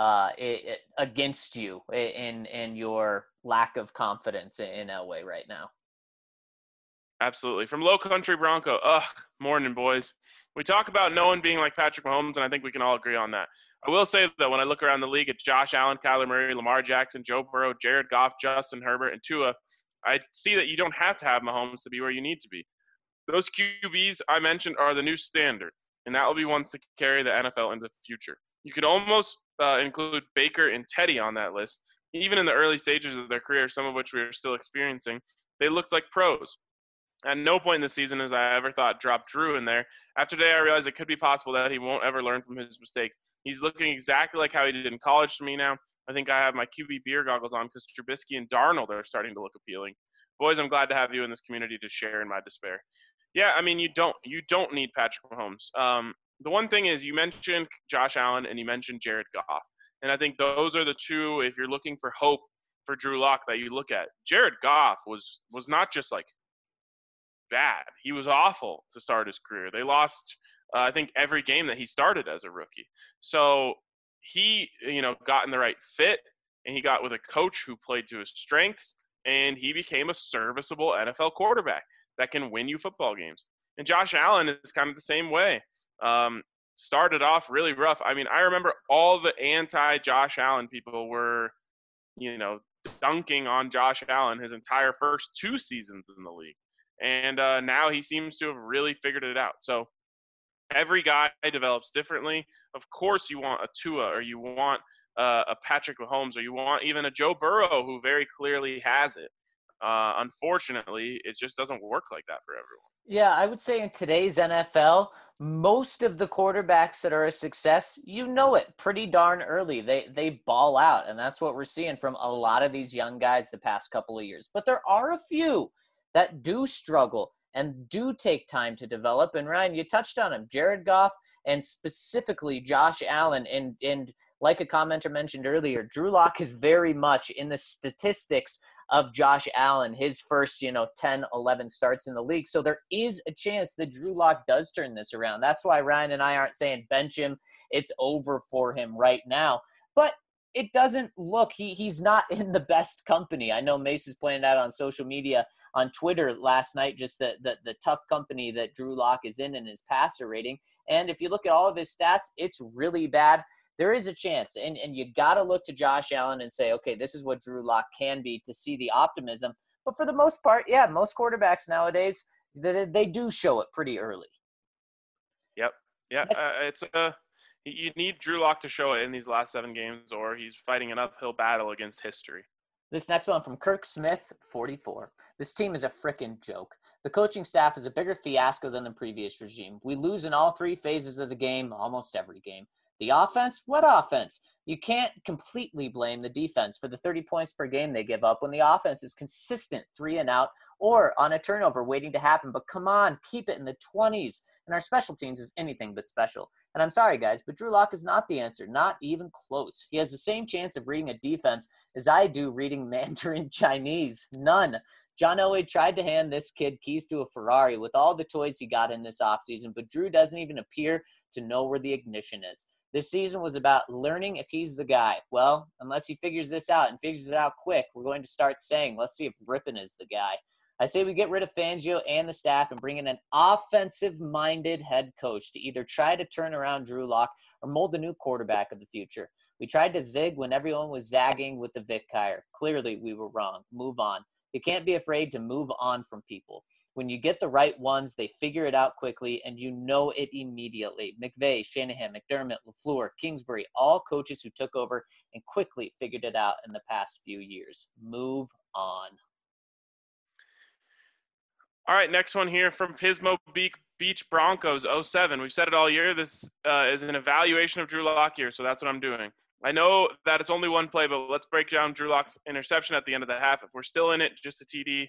against you in your lack of confidence in Elway right now. Absolutely. From Low Country Bronco, morning, boys. We talk about no one being like Patrick Mahomes, and I think we can all agree on that. I will say that when I look around the league at Josh Allen, Kyler Murray, Lamar Jackson, Joe Burrow, Jared Goff, Justin Herbert, and Tua, I see that you don't have to have Mahomes to be where you need to be. Those QBs I mentioned are the new standard, and that will be ones to carry the NFL into the future. You could almost include Baker and Teddy on that list. Even in the early stages of their career, some of which we are still experiencing, they looked like pros. At no point in the season as I ever thought drop Drew in there. After today, I realized it could be possible that he won't ever learn from his mistakes. He's looking exactly like how he did in college to me now. I think I have my QB beer goggles on because Trubisky and Darnold are starting to look appealing. Boys, I'm glad to have you in this community to share in my despair. Yeah, I mean, you don't need Patrick Mahomes. The one thing is you mentioned Josh Allen and you mentioned Jared Goff. And I think those are the two, if you're looking for hope for Drew Lock, that you look at. Jared Goff was not just like bad. He was awful to start his career. They lost, I think, every game that he started as a rookie. So he, got in the right fit, and he got with a coach who played to his strengths, and he became a serviceable NFL quarterback that can win you football games. And Josh Allen is kind of the same way. Started off really rough. I mean, I remember all the anti-Josh Allen people were, dunking on Josh Allen his entire first 2 seasons in the league. And now he seems to have really figured it out. So every guy develops differently. Of course you want a Tua, or you want a Patrick Mahomes, or you want even a Joe Burrow who very clearly has it. Unfortunately, it just doesn't work like that for everyone. Yeah, I would say in today's NFL, most of the quarterbacks that are a success, it pretty darn early. They ball out, and that's what we're seeing from a lot of these young guys the past couple of years. But there are a few that do struggle and do take time to develop. And Ryan, you touched on him, Jared Goff, and specifically Josh Allen. And like a commenter mentioned earlier, Drew Lock is very much in the statistics of Josh Allen, his first, 10, 11 starts in the league. So there is a chance that Drew Lock does turn this around. That's why Ryan and I aren't saying bench him. It's over for him right now. But it doesn't look, he's not in the best company. I know Mace is pointing out on social media, on Twitter last night, just the tough company that Drew Lock is in his passer rating. And if you look at all of his stats, it's really bad. There is a chance, and you got to look to Josh Allen and say, okay, this is what Drew Lock can be, to see the optimism. But for the most part, yeah, most quarterbacks nowadays, they do show it pretty early. Yep. Yeah, you need Drew Lock to show it in these last 7 games, or he's fighting an uphill battle against history. This next one from Kirk Smith, 44. This team is a frickin' joke. The coaching staff is a bigger fiasco than the previous regime. We lose in all 3 phases of the game, almost every game. The offense? What offense? You can't completely blame the defense for the 30 points per game they give up when the offense is consistent 3 and out or on a turnover waiting to happen. But come on, keep it in the 20s. And our special teams is anything but special. And I'm sorry, guys, but Drew Lock is not the answer. Not even close. He has the same chance of reading a defense as I do reading Mandarin Chinese. None. John Elway tried to hand this kid keys to a Ferrari with all the toys he got in this offseason, but Drew doesn't even appear to know where the ignition is. This season was about learning if he's the guy. Well, unless he figures this out and figures it out quick, we're going to start saying, let's see if Rippon is the guy. I say we get rid of Fangio and the staff and bring in an offensive-minded head coach to either try to turn around Drew Lock or mold the new quarterback of the future. We tried to zig when everyone was zagging with the Vic hire. Clearly, we were wrong. Move on. You can't be afraid to move on from people. When you get the right ones, they figure it out quickly, and you know it immediately. McVay, Shanahan, McDermott, LaFleur, Kingsbury, all coaches who took over and quickly figured it out in the past few years. Move on. All right, next one here from Pismo Beach Broncos 07. We've said it all year. This is an evaluation of Drew Lock here, so that's what I'm doing. I know that it's only one play, but let's break down Drew Lock's interception at the end of the half. If we're still in it, just a TD.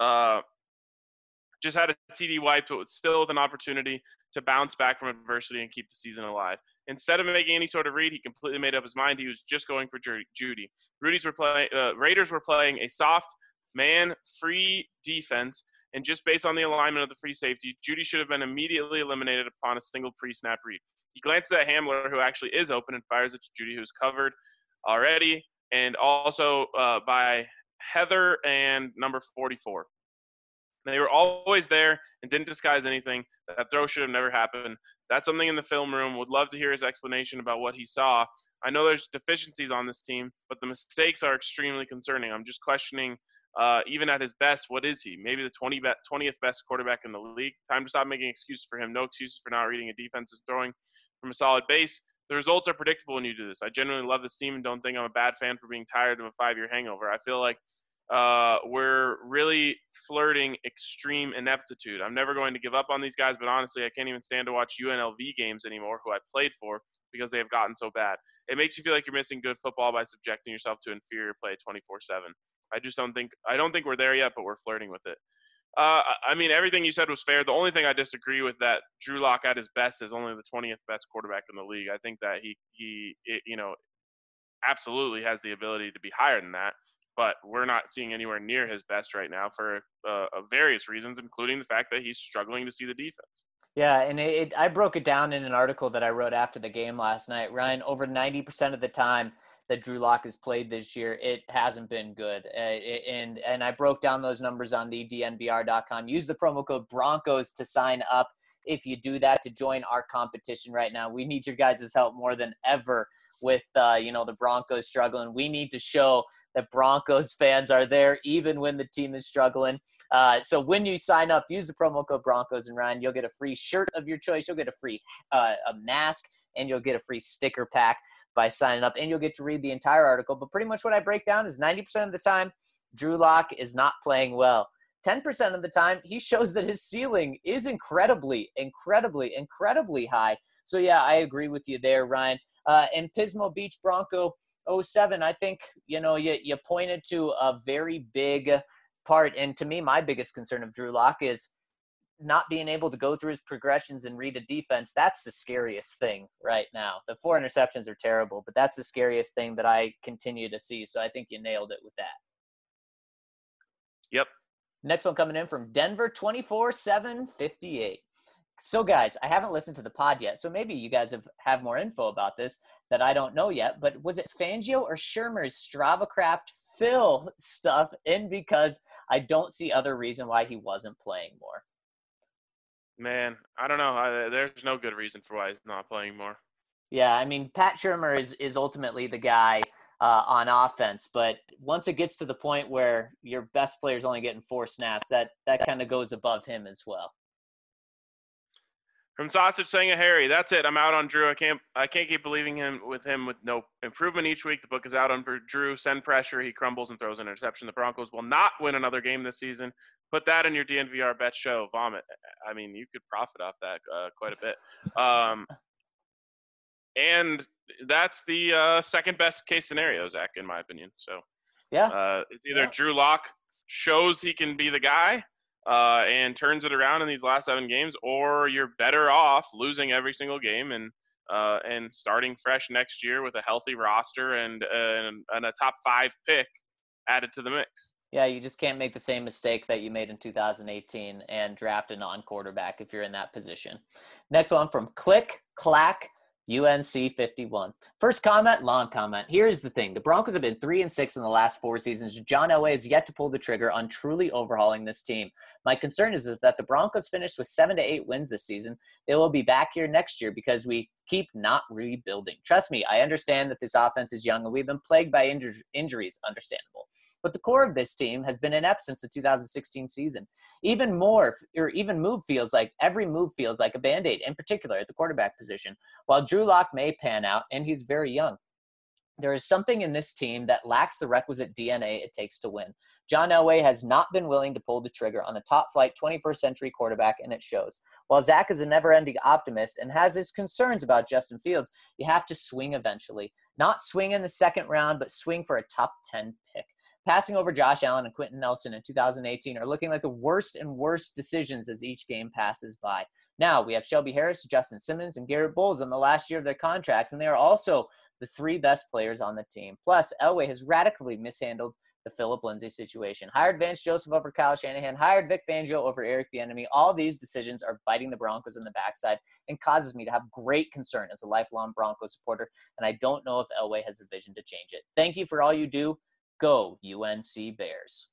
Just had a TD wiped, but still with an opportunity to bounce back from adversity and keep the season alive. Instead of making any sort of read, he completely made up his mind. He was just going for Judy. Raiders were playing a soft, man-free defense, and just based on the alignment of the free safety, Judy should have been immediately eliminated upon a single pre-snap read. He glances at Hamler, who actually is open, and fires it to Judy, who's covered already, and also by Heather and number 44. They were always there and didn't disguise anything. That throw should have never happened. That's something in the film room. Would love to hear his explanation about what he saw. I know there's deficiencies on this team, but the mistakes are extremely concerning. I'm just questioning, even at his best, what is he? Maybe the 20th best quarterback in the league. Time to stop making excuses for him. No excuses for not reading a defense is throwing from a solid base. The results are predictable when you do this. I genuinely love this team and don't think I'm a bad fan for being tired of a 5-year hangover. I feel like we're really flirting extreme ineptitude. I'm never going to give up on these guys, but honestly, I can't even stand to watch UNLV games anymore, who I played for, because they have gotten so bad. It makes you feel like you're missing good football by subjecting yourself to inferior play 24/7. I don't think we're there yet, but we're flirting with it. I mean, everything you said was fair. The only thing I disagree with that Drew Lock at his best is only the 20th best quarterback in the league. I think that he absolutely has the ability to be higher than that. But we're not seeing anywhere near his best right now for various reasons, including the fact that he's struggling to see the defense. Yeah, and I broke it down in an article that I wrote after the game last night. Ryan, over 90% of the time that Drew Lock has played this year, it hasn't been good. And I broke down those numbers on the DNVR.com. Use the promo code Broncos to sign up. If you do that, to join our competition right now. We need your guys' help more than ever with the Broncos struggling. We need to show that Broncos fans are there even when the team is struggling. So when you sign up, use the promo code Broncos, and Ryan, you'll get a free shirt of your choice. You'll get a free a mask, and you'll get a free sticker pack by signing up, and you'll get to read the entire article. But pretty much what I break down is 90% of the time, Drew Lock is not playing well. 10% of the time, he shows that his ceiling is incredibly, incredibly, incredibly high. So, yeah, I agree with you there, Ryan. And Pismo Beach Bronco 07, I think, you pointed to a very big part. And to me, my biggest concern of Drew Lock is not being able to go through his progressions and read a defense. That's the scariest thing right now. The 4 interceptions are terrible, but that's the scariest thing that I continue to see. So I think you nailed it with that. Yep. Next one coming in from Denver 24/758. So, guys, I haven't listened to the pod yet, so maybe you guys have more info about this that I don't know yet. But was it Fangio or Shermer's StravaCraft fill stuff in? Because I don't see other reason why he wasn't playing more. Man, I don't know. There's no good reason for why he's not playing more. Yeah, I mean, Pat Shermer is ultimately the guy on offense, but once it gets to the point where your best player is only getting 4 snaps, that kind of goes above him as well. From Sausage saying a Harry, that's it. I'm out on Drew. I can't keep believing with no improvement each week. The book is out on Drew. Send pressure. He crumbles and throws an interception. The Broncos will not win another game this season. Put that in your DNVR bet show. Vomit. I mean, you could profit off that quite a bit. And that's the second best case scenario, Zach, in my opinion. So yeah, it's either Drew Lock shows he can be the guy and turns it around in these last 7 games, or you're better off losing every single game and starting fresh next year with a healthy roster and a top 5 pick added to the mix. Yeah, you just can't make the same mistake that you made in 2018 and draft a non-quarterback if you're in that position. Next one from Click Clack UNC 51. First comment, long comment. Here's the thing. The Broncos have been 3-6 in the last 4 seasons. John Elway has yet to pull the trigger on truly overhauling this team. My concern is that the Broncos finish with 7 to 8 wins this season. They will be back here next year because we keep not rebuilding. Trust me, I understand that this offense is young and we've been plagued by injuries. Understandable. But the core of this team has been inept since the 2016 season. Every move feels like a Band-Aid, in particular at the quarterback position. While Drew Lock may pan out, and he's very young, there is something in this team that lacks the requisite DNA it takes to win. John Elway has not been willing to pull the trigger on a top-flight 21st century quarterback, and it shows. While Zach is a never-ending optimist and has his concerns about Justin Fields, you have to swing eventually. Not swing in the second round, but swing for a top 10 pick. Passing over Josh Allen and Quentin Nelson in 2018 are looking like the worst and worst decisions as each game passes by. Now, we have Shelby Harris, Justin Simmons, and Garrett Bowles in the last year of their contracts, and they are also the 3 best players on the team. Plus, Elway has radically mishandled the Phillip Lindsay situation. Hired Vance Joseph over Kyle Shanahan, hired Vic Fangio over Eric Bieniemy. All these decisions are biting the Broncos in the backside and causes me to have great concern as a lifelong Broncos supporter, and I don't know if Elway has a vision to change it. Thank you for all you do. Go UNC Bears.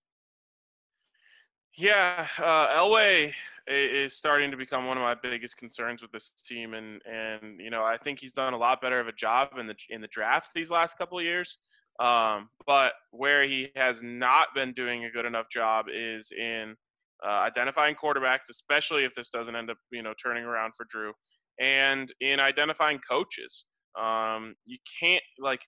Yeah, Elway is starting to become one of my biggest concerns with this team, and I think he's done a lot better of a job in the draft these last couple of years. But where he has not been doing a good enough job is in identifying quarterbacks, especially if this doesn't end up turning around for Drew, and in identifying coaches. You can't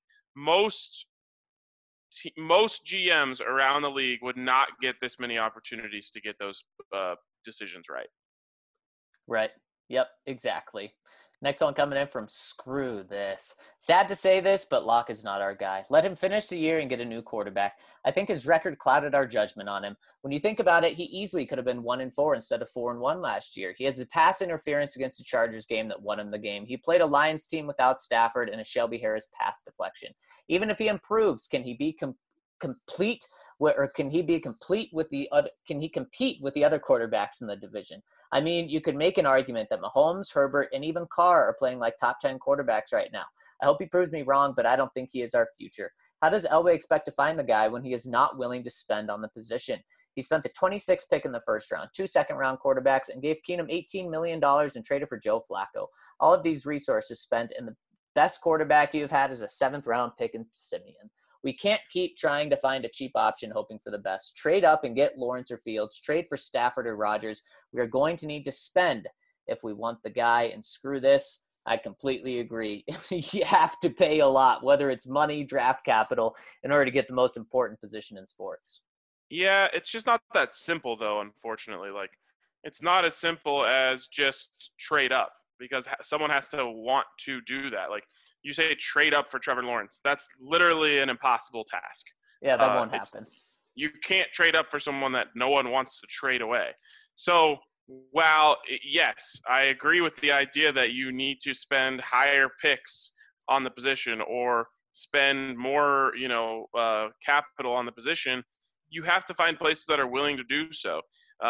most GMs around the league would not get this many opportunities to get those decisions right. Right. Yep, exactly. Next one coming in from Screw This. Sad to say this, but Locke is not our guy. Let him finish the year and get a new quarterback. I think his record clouded our judgment on him. When you think about it, he easily could have been 1-4 instead of 4-1 last year. He has a pass interference against the Chargers game that won him the game. He played a Lions team without Stafford and a Shelby Harris pass deflection. Even if he improves, can he be complete? Or can he compete with the other quarterbacks in the division? I mean, you could make an argument that Mahomes, Herbert, and even Carr are playing like top 10 quarterbacks right now. I hope he proves me wrong, but I don't think he is our future. How does Elway expect to find the guy when he is not willing to spend on the position? He spent the 26th pick in the first round, 2 second-round quarterbacks, and gave Keenum $18 million and traded for Joe Flacco. All of these resources spent, and the best quarterback you've had is a 7th-round pick in Simeon. We can't keep trying to find a cheap option hoping for the best. Trade up and get Lawrence or Fields. Trade for Stafford or Rodgers. We are going to need to spend if we want the guy. And screw this, I completely agree. You have to pay a lot, whether it's money, draft capital, in order to get the most important position in sports. Yeah, it's just not that simple, though, unfortunately. Like, it's not as simple as just trade up because someone has to want to do that. Like, you say trade up for Trevor Lawrence. That's literally an impossible task. Yeah, that won't happen. You can't trade up for someone that no one wants to trade away. So while, yes, I agree with the idea that you need to spend higher picks on the position or spend more, capital on the position, you have to find places that are willing to do so.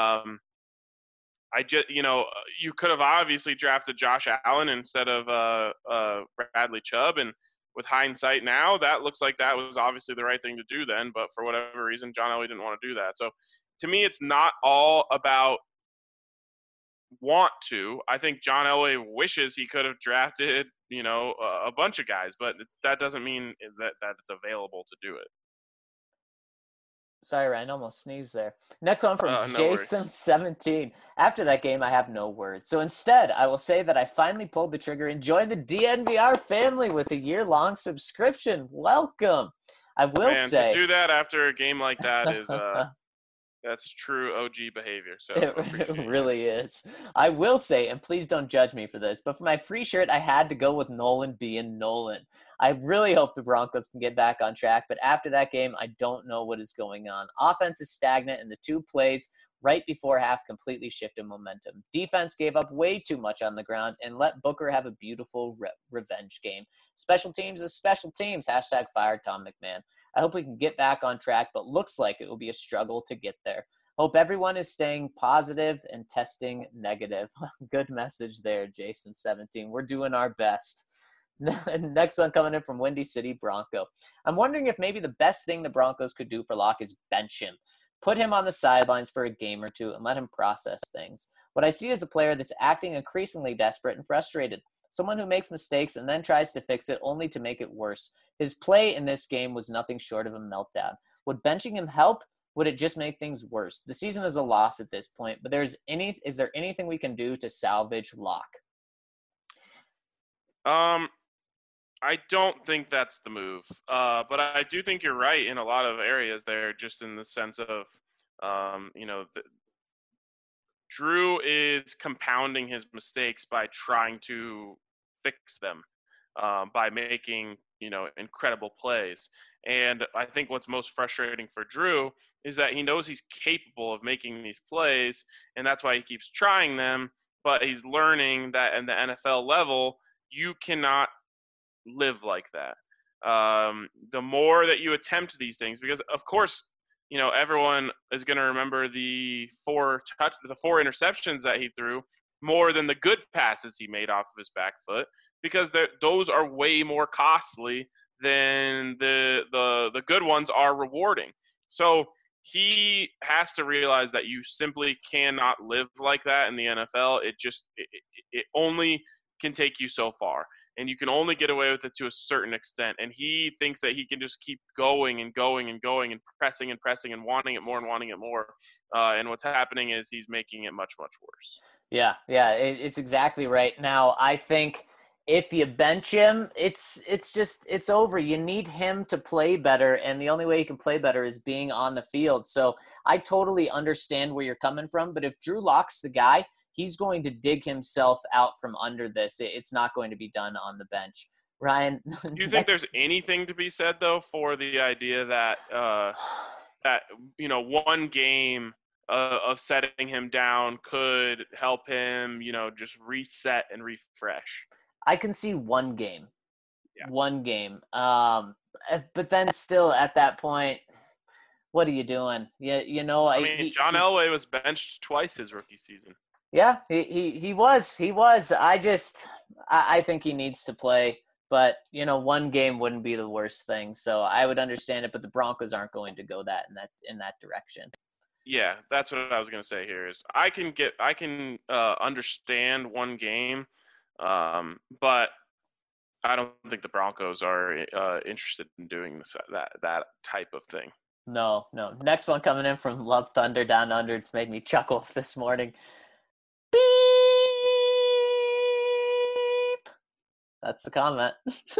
You could have obviously drafted Josh Allen instead of Bradley Chubb, and with hindsight now, that looks like that was obviously the right thing to do then, but for whatever reason, John Elway didn't want to do that. So to me, it's not all about want to. I think John Elway wishes he could have drafted, a bunch of guys, but that doesn't mean that it's available to do it. Sorry, Ryan, almost sneezed there. Next one from Jason17. After that game, I have no words. So instead, I will say that I finally pulled the trigger and joined the DNVR family with a year-long subscription. Welcome. I will say. To do that after a game like that is that's true OG behavior. So it really is. I will say, and please don't judge me for this, but for my free shirt, I had to go with Nolan being Nolan. I really hope the Broncos can get back on track, but after that game, I don't know what is going on. Offense is stagnant, and the 2 plays right before half completely shifted momentum. Defense gave up way too much on the ground and let Booker have a beautiful revenge game. Special teams is special teams. # fire Tom McMahon. I hope we can get back on track, but looks like it will be a struggle to get there. Hope everyone is staying positive and testing negative. Good message there, Jason17. We're doing our best. Next one coming in from Windy City Bronco. I'm wondering if maybe the best thing the Broncos could do for Locke is bench him. Put him on the sidelines for a game or two and let him process things. What I see is a player that's acting increasingly desperate and frustrated. Someone who makes mistakes and then tries to fix it only to make it worse. His play in this game was nothing short of a meltdown. Would benching him help? Would it just make things worse? The season is a loss at this point, but is there anything we can do to salvage Locke? I don't think that's the move, but I do think you're right in a lot of areas there, just in the sense of, Drew is compounding his mistakes by trying to fix them, by making, incredible plays. And I think what's most frustrating for Drew is that he knows he's capable of making these plays, and that's why he keeps trying them, but he's learning that in the NFL level, you cannot live like that. The more that you attempt these things, because of course, everyone is going to remember the four interceptions that he threw more than the good passes he made off of his back foot, because those are way more costly than the good ones are rewarding. So he has to realize that you simply cannot live like that in the NFL. It only can take you so far, and you can only get away with it to a certain extent. And he thinks that he can just keep going and going and going and pressing and wanting it more and wanting it more. And what's happening is he's making it much, much worse. Yeah, it's exactly right. Now, I think if you bench him, it's over. You need him to play better, and the only way he can play better is being on the field. So I totally understand where you're coming from, but if Drew Lock's the guy, he's going to dig himself out from under this. It's not going to be done on the bench. Ryan, do you think there's anything to be said, though, for the idea that one game of setting him down could help him, just reset and refresh? I can see one game. Yeah. One game. But then still at that point, what are you doing? John Elway was benched twice his rookie season. Yeah, he was. I think he needs to play, but one game wouldn't be the worst thing. So I would understand it, but the Broncos aren't going to go in that direction. Yeah, that's what I was going to say here is I can understand one game, but I don't think the Broncos are interested in doing that type of thing. No. Next one coming in from Love Thunder Down Under. It's made me chuckle this morning. Beep. That's the comment.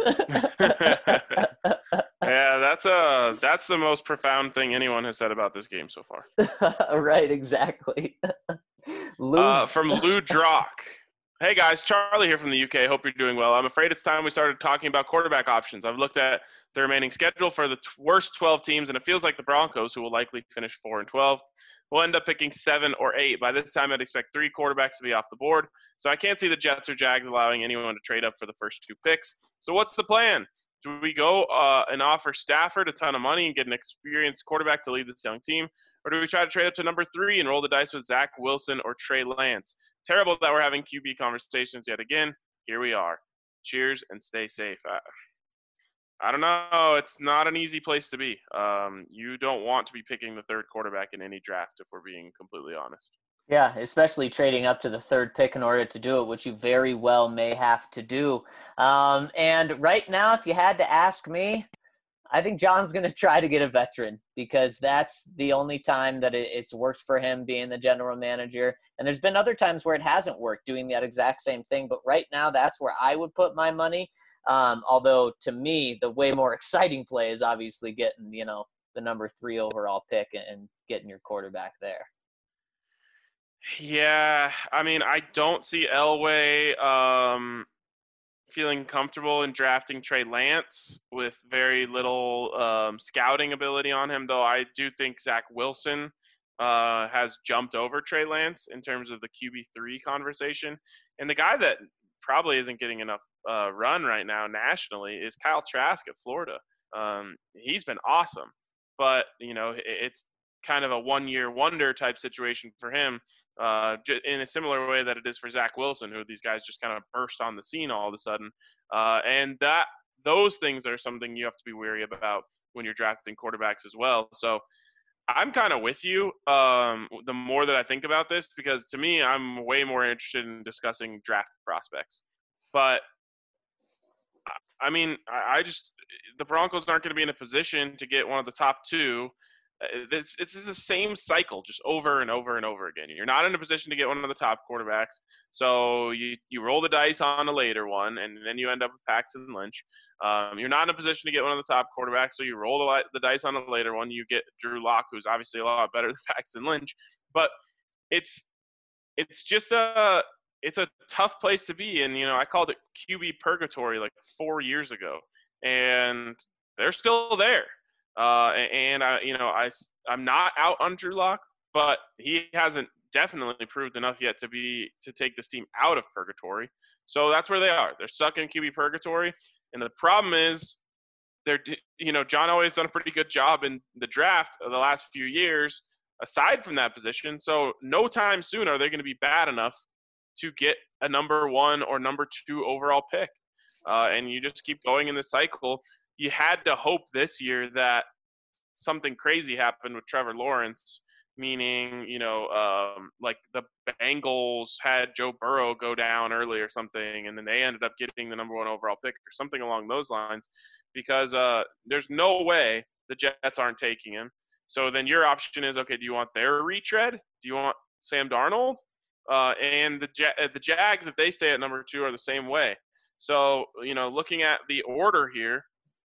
Yeah, that's the most profound thing anyone has said about this game so far. Right, exactly. From Lou Drock. Hey guys, Charlie here from the UK. Hope you're doing well. I'm afraid it's time we started talking about quarterback options. I've looked at the remaining schedule for the worst 12 teams, and it feels like the Broncos, who will likely finish 4-12, will end up picking 7 or 8. By this time, I'd expect 3 quarterbacks to be off the board. So I can't see the Jets or Jags allowing anyone to trade up for the first 2 picks. So what's the plan? Do we go and offer Stafford a ton of money and get an experienced quarterback to lead this young team? Or do we try to trade up to number 3 and roll the dice with Zach Wilson or Trey Lance? Terrible that we're having QB conversations yet again. Here we are. Cheers and stay safe. I don't know. It's not an easy place to be. You don't want to be picking the 3rd quarterback in any draft, if we're being completely honest. Yeah, especially trading up to the 3rd pick in order to do it, which you very well may have to do. And right now, if you had to ask me, I think John's going to try to get a veteran because that's the only time that it's worked for him being the general manager. And there's been other times where it hasn't worked doing that exact same thing. But right now, that's where I would put my money. Although to me, the way more exciting play is obviously getting, the number 3 overall pick and getting your quarterback there. Yeah, I don't see Elway feeling comfortable in drafting Trey Lance with very little scouting ability on him, though I do think Zach Wilson has jumped over Trey Lance in terms of the QB3 conversation. And the guy that probably isn't getting enough run right now nationally is Kyle Trask at Florida. He's been awesome, but, it's kind of a one-year wonder type situation for him. in a similar way that it is for Zach Wilson, who these guys just kind of burst on the scene all of a sudden. And those things are something you have to be wary about when you're drafting quarterbacks as well. So I'm kind of with you the more that I think about this, because to me, I'm way more interested in discussing draft prospects. But I mean, the Broncos aren't going to be in a position to get one of the top two. It's the same cycle just over and over and over again. You're not in a position to get one of the top quarterbacks, so you roll the dice on a later one, and then you end up with Paxton Lynch. You're not in a position to get one of the top quarterbacks, so you roll the dice on a later one. You get Drew Lock, who's obviously a lot better than Paxton Lynch, but it's just it's a tough place to be in. I called it QB purgatory like 4 years ago, and they're still there. I'm not out on Drew Lock, but he hasn't definitely proved enough yet to take this team out of purgatory. So that's where they are. They're stuck in QB purgatory, and the problem is John Elway's done a pretty good job in the draft of the last few years aside from that position. So no time soon are they going to be bad enough to get a number 1 or number 2 overall pick. And you just keep going in the cycle. You had to hope this year that something crazy happened with Trevor Lawrence, meaning, like the Bengals had Joe Burrow go down early or something, and then they ended up getting the number 1 overall pick or something along those lines, because there's no way the Jets aren't taking him. So then your option is, okay, do you want their retread? Do you want Sam Darnold? And the Jags, if they stay at number 2, are the same way. So, looking at the order here,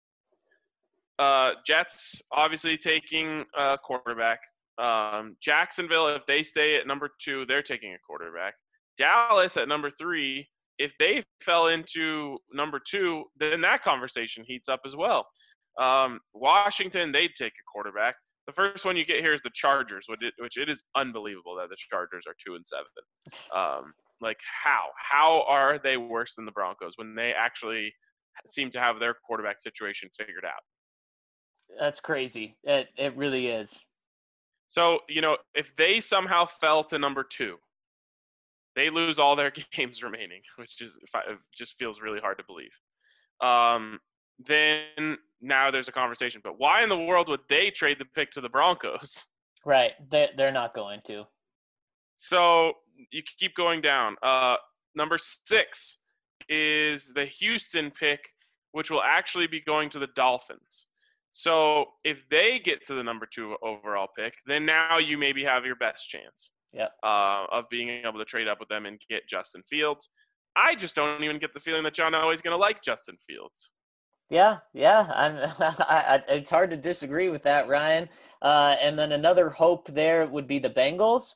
Jets obviously taking a quarterback. Jacksonville, if they stay at number 2, they're taking a quarterback. Dallas at number 3, if they fell into number 2, then that conversation heats up as well. Washington, they'd take a quarterback. The first one you get here is the Chargers, which it is unbelievable that the Chargers are 2-7. Like how are they worse than the Broncos when they actually seem to have their quarterback situation figured out? That's crazy. It really is. So, if they somehow fell to number 2, they lose all their games remaining, which just feels really hard to believe. Then now there's a conversation. But why in the world would they trade the pick to the Broncos? Right. They're not going to. So you keep going down. Number 6 is the Houston pick, which will actually be going to the Dolphins. So if they get to the number 2 overall pick, then now you maybe have your best chance of being able to trade up with them and get Justin Fields. I just don't even get the feeling that John Elway's going to like Justin Fields. Yeah. It's hard to disagree with that, Ryan. And then another hope there would be the Bengals,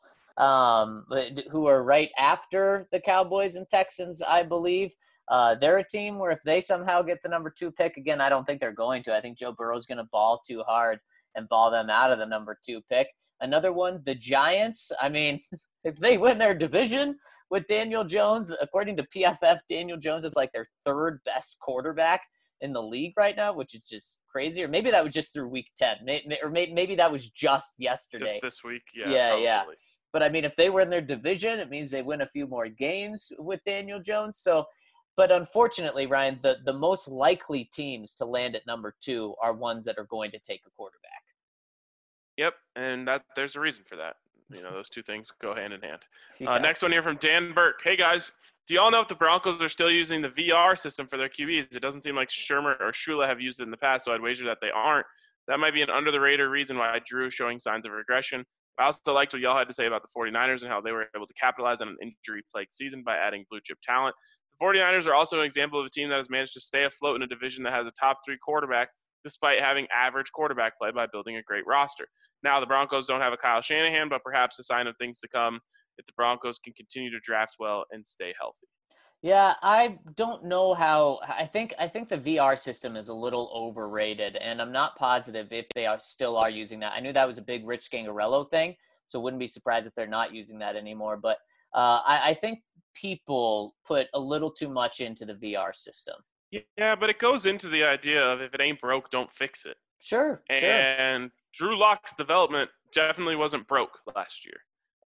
who are right after the Cowboys and Texans, I believe. They're a team where if they somehow get the number 2 pick, again, I don't think they're going to. I think Joe Burrow's going to ball too hard and ball them out of the number 2 pick. Another one, the Giants. I mean, if they win their division with Daniel Jones, according to PFF, Daniel Jones is like their 3rd best quarterback in the league right now, which is just crazy. Or maybe that was just through week 10. Or maybe that was just yesterday. Just this week, yeah. But, I mean, if they win their division, it means they win a few more games with Daniel Jones. So, but unfortunately, Ryan, the most likely teams to land at number 2 are ones that are going to take a quarterback. Yep, and there's a reason for that. Those two things go hand in hand. Next one here from Dan Burke. Hey, guys. Do y'all know if the Broncos are still using the VR system for their QBs? It doesn't seem like Shermer or Shula have used it in the past, so I'd wager that they aren't. That might be an under-the-radar reason why Drew is showing signs of regression. I also liked what y'all had to say about the 49ers and how they were able to capitalize on an injury-plagued season by adding blue-chip talent. The 49ers are also an example of a team that has managed to stay afloat in a division that has a top 3 quarterback despite having average quarterback play by building a great roster. Now, the Broncos don't have a Kyle Shanahan, but perhaps a sign of things to come if the Broncos can continue to draft well and stay healthy. Yeah, I don't know how. I think the VR system is a little overrated, and I'm not positive if they still are using that. I knew that was a big Rich Scangarello thing, so wouldn't be surprised if they're not using that anymore. But I think people put a little too much into the VR system. Yeah, but it goes into the idea of if it ain't broke, don't fix it. Sure. And Drew Lock's development definitely wasn't broke last year.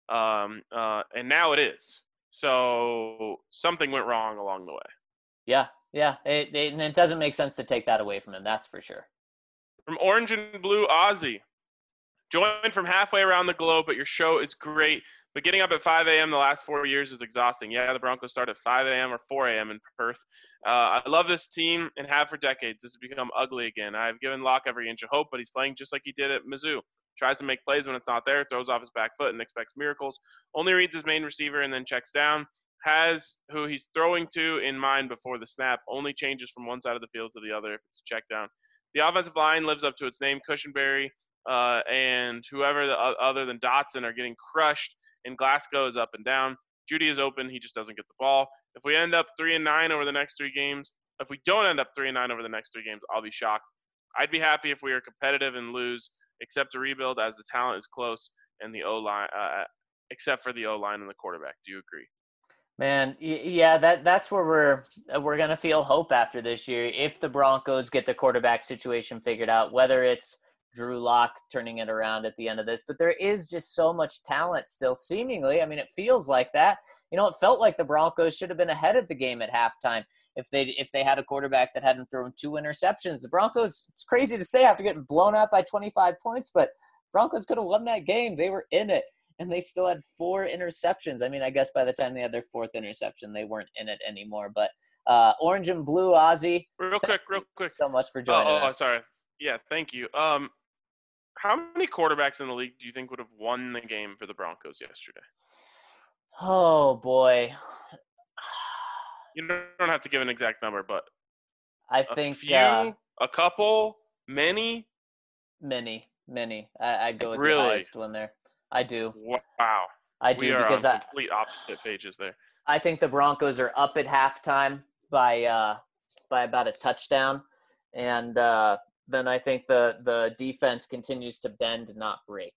and now it is. So something went wrong along the way. Yeah. And it doesn't make sense to take that away from him. That's for sure. From Orange and Blue, Ozzy. Joined from halfway around the globe, but your show is great. But getting up at 5 a.m. the last 4 years is exhausting. Yeah, the Broncos start at 5 a.m. or 4 a.m. in Perth. I love this team and have for decades. This has become ugly again. I've given Locke every inch of hope, but he's playing just like he did at Mizzou. Tries to make plays when it's not there, throws off his back foot and expects miracles. Only reads his main receiver and then checks down. Has who he's throwing to in mind before the snap. Only changes from one side of the field to the other if it's a check down. The offensive line lives up to its name. Cushenberry and whoever other than Dotson are getting crushed, and Glasgow is up and down. Judy is open. He just doesn't get the ball. If we end up 3-9 over the next 3 games, if we don't end up 3-9 over the next 3 games, I'll be shocked. I'd be happy if we are competitive and lose, except to rebuild as the talent is close and the O-line, except for the O-line and the quarterback. Do you agree? Man, yeah, that's where we're gonna feel hope after this year if the Broncos get the quarterback situation figured out, whether it's Drew Lock turning it around at the end of this. But there is just so much talent still, seemingly. I mean, it feels like that. It felt like the Broncos should have been ahead of the game at halftime if they had a quarterback that hadn't thrown 2 interceptions. The Broncos, it's crazy to say after getting blown out by 25 points, but Broncos could have won that game. They were in it. And they still had 4 interceptions. I mean, I guess by the time they had their 4th interception, they weren't in it anymore. But Orange and Blue, Ozzy. Real quick. So much for joining us. Oh, sorry. Yeah, thank you. How many quarterbacks in the league do you think would have won the game for the Broncos yesterday? Oh, boy. You don't have to give an exact number, but I think a few, a couple, many. I'd go with really? The highest one there. I do. Wow. I do, we are because on complete opposite pages there. I think the Broncos are up at halftime by about a touchdown, and then I think the defense continues to bend, not break.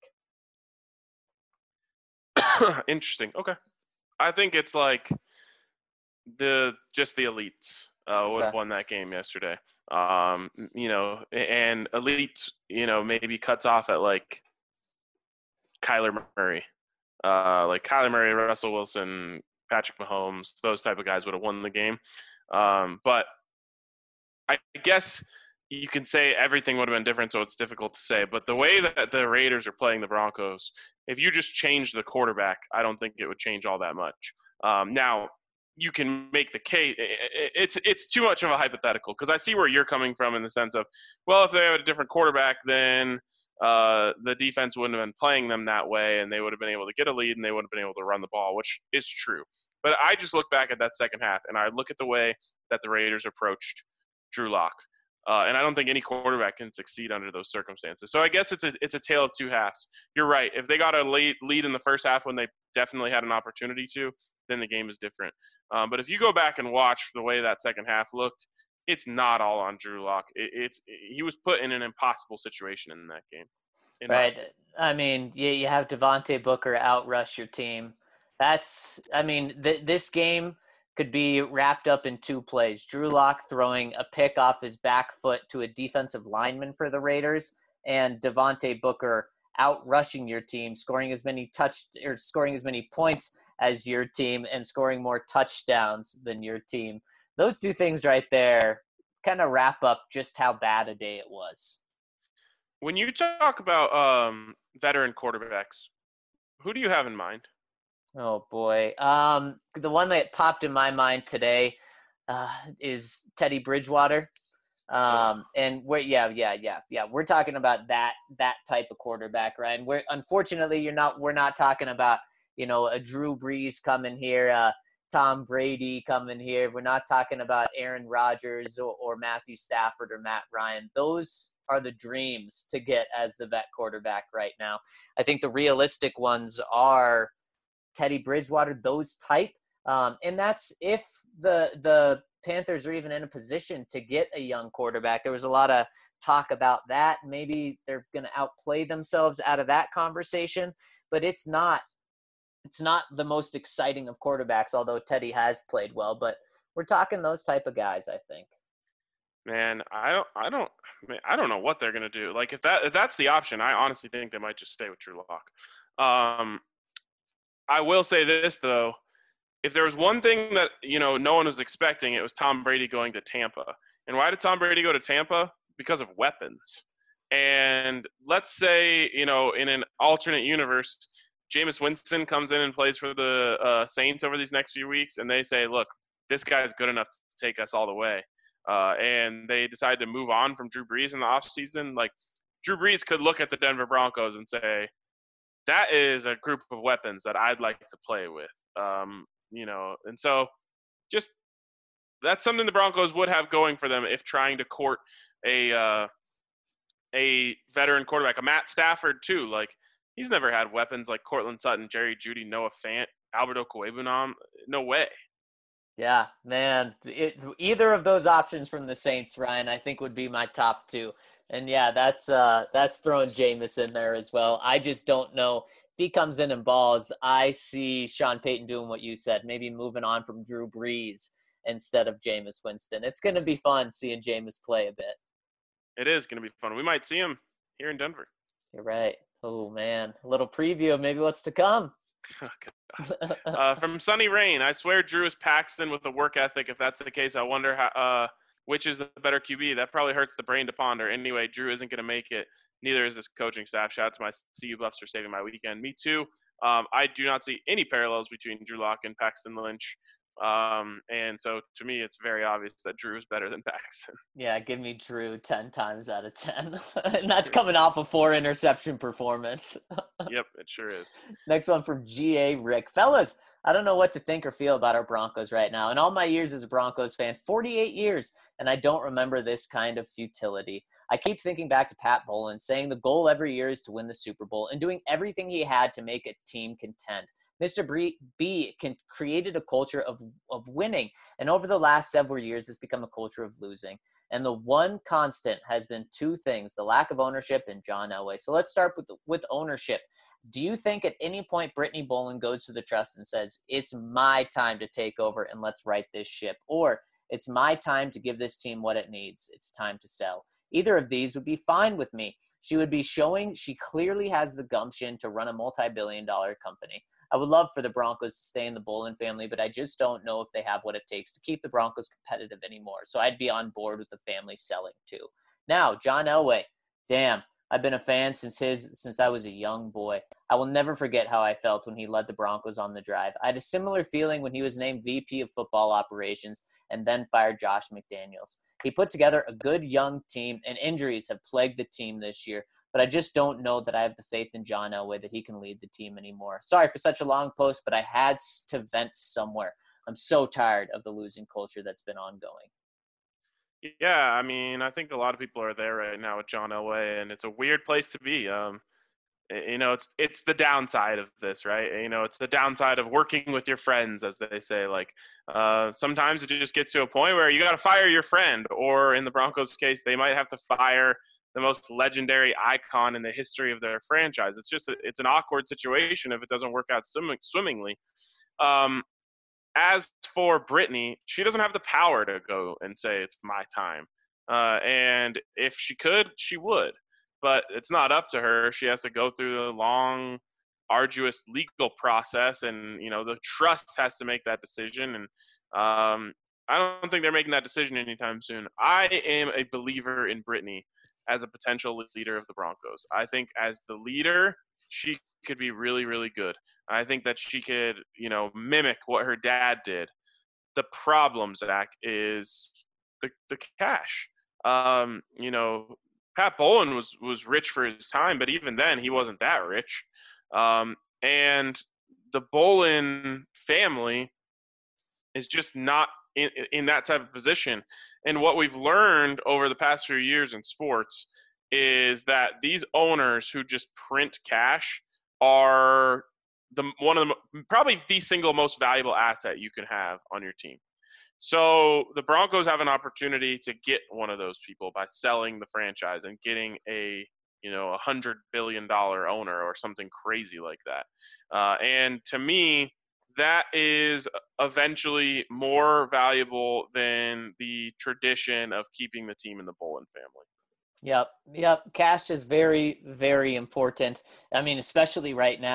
Interesting. Okay. I think it's like the elites would have won that game yesterday. And elite, maybe cuts off at like Kyler Murray. Russell Wilson, Patrick Mahomes, those type of guys would have won the game. But I guess you can say everything would have been different, so it's difficult to say. But the way that the Raiders are playing the Broncos, if you just change the quarterback, I don't think it would change all that much. Now, you can make the case. It's too much of a hypothetical because I see where you're coming from in the sense of, well, if they have a different quarterback, then the defense wouldn't have been playing them that way, and they would have been able to get a lead, and they would have been able to run the ball, which is true. But I just look back at that second half, and I look at the way that the Raiders approached Drew Lock, and I don't think any quarterback can succeed under those circumstances. So I guess it's a tale of two halves. You're right. If they got a lead in the first half when they definitely had an opportunity to, then the game is different. But if you go back and watch the way that second half looked, it's not all on Drew Lock. He was put in an impossible situation in that game. Right. I mean, you have Devontae Booker outrush your team. This game could be wrapped up in 2 plays. Drew Lock throwing a pick off his back foot to a defensive lineman for the Raiders, and Devontae Booker outrushing your team, scoring as many points as your team, and scoring more touchdowns than your team. Those 2 things right there kind of wrap up just how bad a day it was. When you talk about veteran quarterbacks, who do you have in mind? Oh, boy. The one that popped in my mind today is Teddy Bridgewater. And we're talking about that type of quarterback, Ryan. Unfortunately, we're not talking about, a Drew Brees coming here, Tom Brady coming here. We're not talking about Aaron Rodgers or Matthew Stafford or Matt Ryan. Those are the dreams to get as the vet quarterback right now. I think the realistic ones are Teddy Bridgewater, those type. And that's if the Panthers are even in a position to get a young quarterback. There was a lot of talk about that. Maybe they're going to outplay themselves out of that conversation, but it's not the most exciting of quarterbacks, although Teddy has played well, but we're talking those type of guys, I think. Man, I don't know what they're going to do. Like if that's the option, I honestly think they might just stay with Drew Lock. I will say this, though. If there was one thing that, no one was expecting, it was Tom Brady going to Tampa. And why did Tom Brady go to Tampa? Because of weapons. And let's say, in an alternate universe, Jameis Winston comes in and plays for the Saints over these next few weeks, and they say, look, this guy's good enough to take us all the way. And they decide to move on from Drew Brees in the offseason. Like, Drew Brees could look at the Denver Broncos and say, that is a group of weapons that I'd like to play with. And so just that's something the Broncos would have going for them if trying to court a veteran quarterback, a Matt Stafford too. Like, he's never had weapons like Cortland Sutton, Jerry Jeudy, Noah Fant, Alberto Cuevunam. No way. Yeah, man. Either of those options from the Saints, Ryan, I think would be my top two. And yeah, that's throwing Jameis in there as well. I just don't know if he comes in and balls. I see Sean Payton doing what you said, maybe moving on from Drew Brees instead of Jameis Winston. It's going to be fun seeing Jameis play a bit. It is going to be fun. We might see him here in Denver. You're right. Oh man, a little preview of maybe what's to come. From Sunny Rain, I swear Drew is Paxton with a work ethic. If that's the case, I wonder which is the better QB. That probably hurts the brain to ponder. Anyway, Drew isn't going to make it. Neither is this coaching staff. Shout out to my CU Buffs for saving my weekend. Me too. I do not see any parallels between Drew Lock and Paxton Lynch. And so to me, it's very obvious that Drew is better than Paxton. Yeah, give me Drew 10 times out of 10. And that's coming off a 4-interception performance. Yep, it sure is. Next one from G.A. Rick. Fellas, I don't know what to think or feel about our Broncos right now. In all my years as a Broncos fan, 48 years, and I don't remember this kind of futility. I keep thinking back to Pat Bowlen saying the goal every year is to win the Super Bowl and doing everything he had to make a team contend. Mr. B created a culture of winning, and over the last several years, it's become a culture of losing. And the one constant has been two things: the lack of ownership and John Elway. So let's start with ownership. Do you think at any point Brittany Bowlen goes to the trust and says, it's my time to take over and let's right this ship? Or it's my time to give this team what it needs. It's time to sell. Either of these would be fine with me. She would be showing she clearly has the gumption to run a multi-billion-dollar company. I would love for the Broncos to stay in the Bowlen family, but I just don't know if they have what it takes to keep the Broncos competitive anymore. So I'd be on board with the family selling too. Now, John Elway, damn, I've been a fan since I was a young boy. I will never forget how I felt when he led the Broncos on the drive. I had a similar feeling when he was named VP of football operations and then fired Josh McDaniels. He put together a good young team, and injuries have plagued the team this year. But I just don't know that I have the faith in John Elway that he can lead the team anymore. Sorry for such a long post, but I had to vent somewhere. I'm so tired of the losing culture that's been ongoing. Yeah, I mean, I think a lot of people are there right now with John Elway, and it's a weird place to be. It's the downside of this, right? It's the downside of working with your friends, as they say. Like, sometimes it just gets to a point where you got to fire your friend, or in the Broncos' case, they might have to fire the most legendary icon in the history of their franchise. It's an awkward situation if it doesn't work out swimmingly. As for Brittany, she doesn't have the power to go and say it's my time. And if she could, she would. But it's not up to her. She has to go through the long, arduous legal process, and the trust has to make that decision. And I don't think they're making that decision anytime soon. I am a believer in Brittany as a potential leader of the Broncos. I think as the leader, she could be really, really good. I think that she could, mimic what her dad did. The problem, Zach, is the cash. Pat Bowlen was rich for his time, but even then he wasn't that rich. And the Bowlen family is just not in that type of position. And what we've learned over the past few years in sports is that these owners who just print cash are probably the single most valuable asset you can have on your team. So the Broncos have an opportunity to get one of those people by selling the franchise and getting a $100 billion owner or something crazy like that. And to me, that is eventually more valuable than the tradition of keeping the team in the Bowlen family. Yep. Cash is very, very important. I mean, especially right now.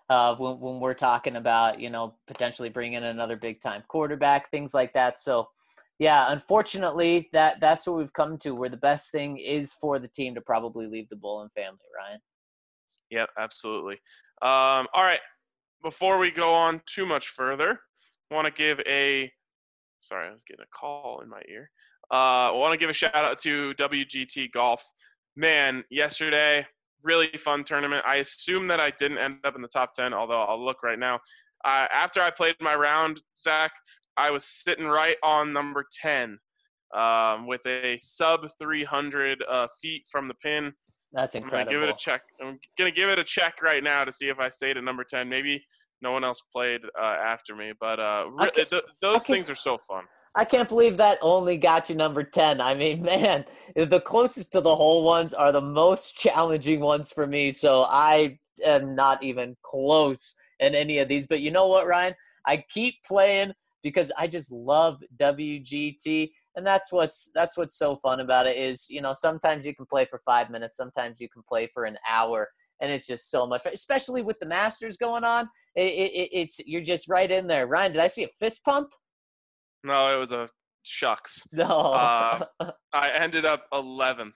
when we're talking about, potentially bringing another big-time quarterback, things like that. So, yeah, unfortunately, that's what we've come to, where the best thing is for the team to probably leave the Bullen family, Ryan. Yep, absolutely. All right. Before we go on too much further, I want to give sorry, I was getting a call in my ear. I want to give a shout out to WGT Golf. Man, yesterday, really fun tournament. I assume that I didn't end up in the top 10, although I'll look right now. After I played my round, Zach, I was sitting right on number 10 with a sub 300 feet from the pin. That's incredible. I'm going to give it a check right now to see if I stayed at number 10. Maybe no one else played after me, but those things are so fun. I can't believe that only got you number 10. I mean, man, the closest to the hole ones are the most challenging ones for me, so I am not even close in any of these. But you know what, Ryan? I keep playing because I just love WGT, and that's what's so fun about it is, sometimes you can play for 5 minutes, sometimes you can play for an hour, and it's just so much fun, especially with the Masters going on. It's you're just right in there. Ryan, did I see a fist pump? No, it was a shucks. No. I ended up 11th.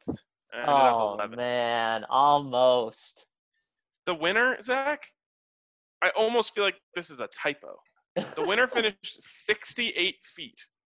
Man, almost. The winner, Zach, I almost feel like this is a typo. The winner finished 68 feet.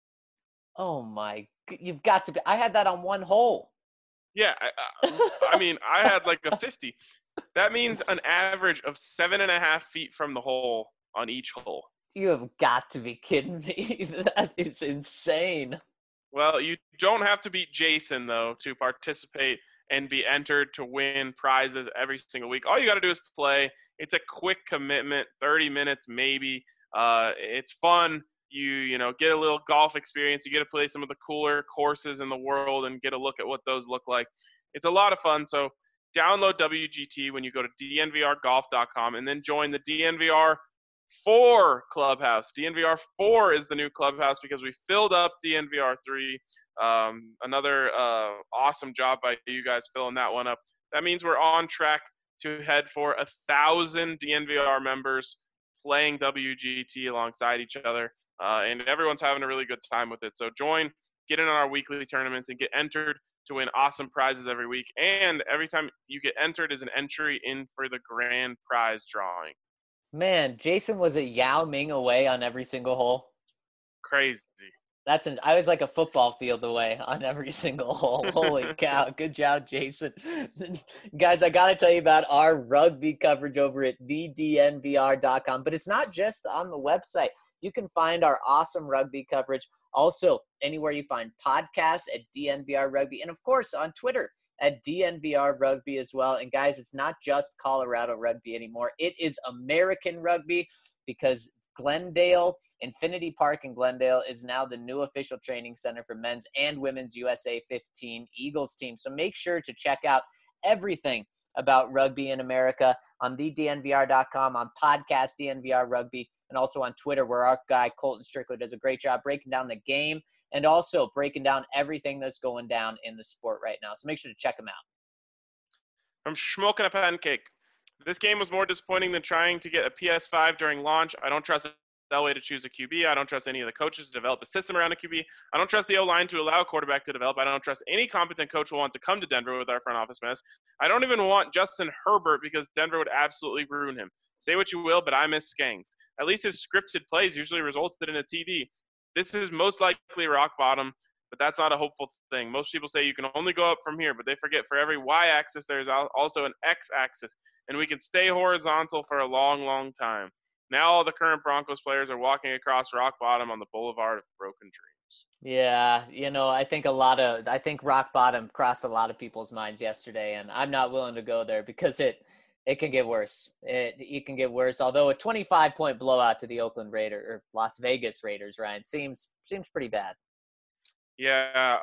Oh, you've got to be. I had that on one hole. Yeah, I mean, I had like a 50. That means an average of 7.5 feet from the hole on each hole. You have got to be kidding me. That is insane. Well, you don't have to beat Jason, though, to participate and be entered to win prizes every single week. All you got to do is play. It's a quick commitment, 30 minutes maybe. It's fun. You get a little golf experience. You get to play some of the cooler courses in the world and get a look at what those look like. It's a lot of fun. So download WGT when you go to dnvrgolf.com and then join the DNVR 4 clubhouse. DNVR 4 is the new clubhouse because we filled up DNVR 3. Another awesome job by you guys filling that one up. That means we're on track to head for 1,000 DNVR members playing WGT alongside each other. And everyone's having a really good time with it. So join, get in on our weekly tournaments, and get entered to win awesome prizes every week. And every time you get entered is an entry in for the grand prize drawing. Man, Jason was a Yao Ming away on every single hole. Crazy. I was like a football field away on every single hole. Holy cow. Good job, Jason. Guys, I got to tell you about our rugby coverage over at thednvr.com. But it's not just on the website. You can find our awesome rugby coverage also anywhere you find podcasts at DNVR Rugby. And, of course, on Twitter at DNVR Rugby as well. And, guys, it's not just Colorado rugby anymore. It is American rugby because Glendale, Infinity Park in Glendale is now the new official training center for men's and women's USA 15 Eagles team. So make sure to check out everything about rugby in America on thednvr.com, on podcast DNVR Rugby, and also on Twitter where our guy Colton Strickler does a great job breaking down the game and also breaking down everything that's going down in the sport right now. So make sure to check him out. From Schmoking a Pancake. This game was more disappointing than trying to get a PS5 during launch. I don't trust Elway to choose a QB. I don't trust any of the coaches to develop a system around a QB. I don't trust the O-line to allow a quarterback to develop. I don't trust any competent coach who wants to come to Denver with our front office mess. I don't even want Justin Herbert because Denver would absolutely ruin him. Say what you will, but I miss Skanks. At least his scripted plays usually resulted in a TD. This is most likely rock bottom, but that's not a hopeful thing. Most people say you can only go up from here, but they forget for every y-axis there's also an x-axis, and we can stay horizontal for a long, long time. Now all the current Broncos players are walking across rock bottom on the boulevard of broken dreams. Yeah, I think rock bottom crossed a lot of people's minds yesterday, and I'm not willing to go there because it can get worse. It can get worse. Although a 25-point blowout to the Oakland Raiders or Las Vegas Raiders, Ryan, seems pretty bad. Yeah,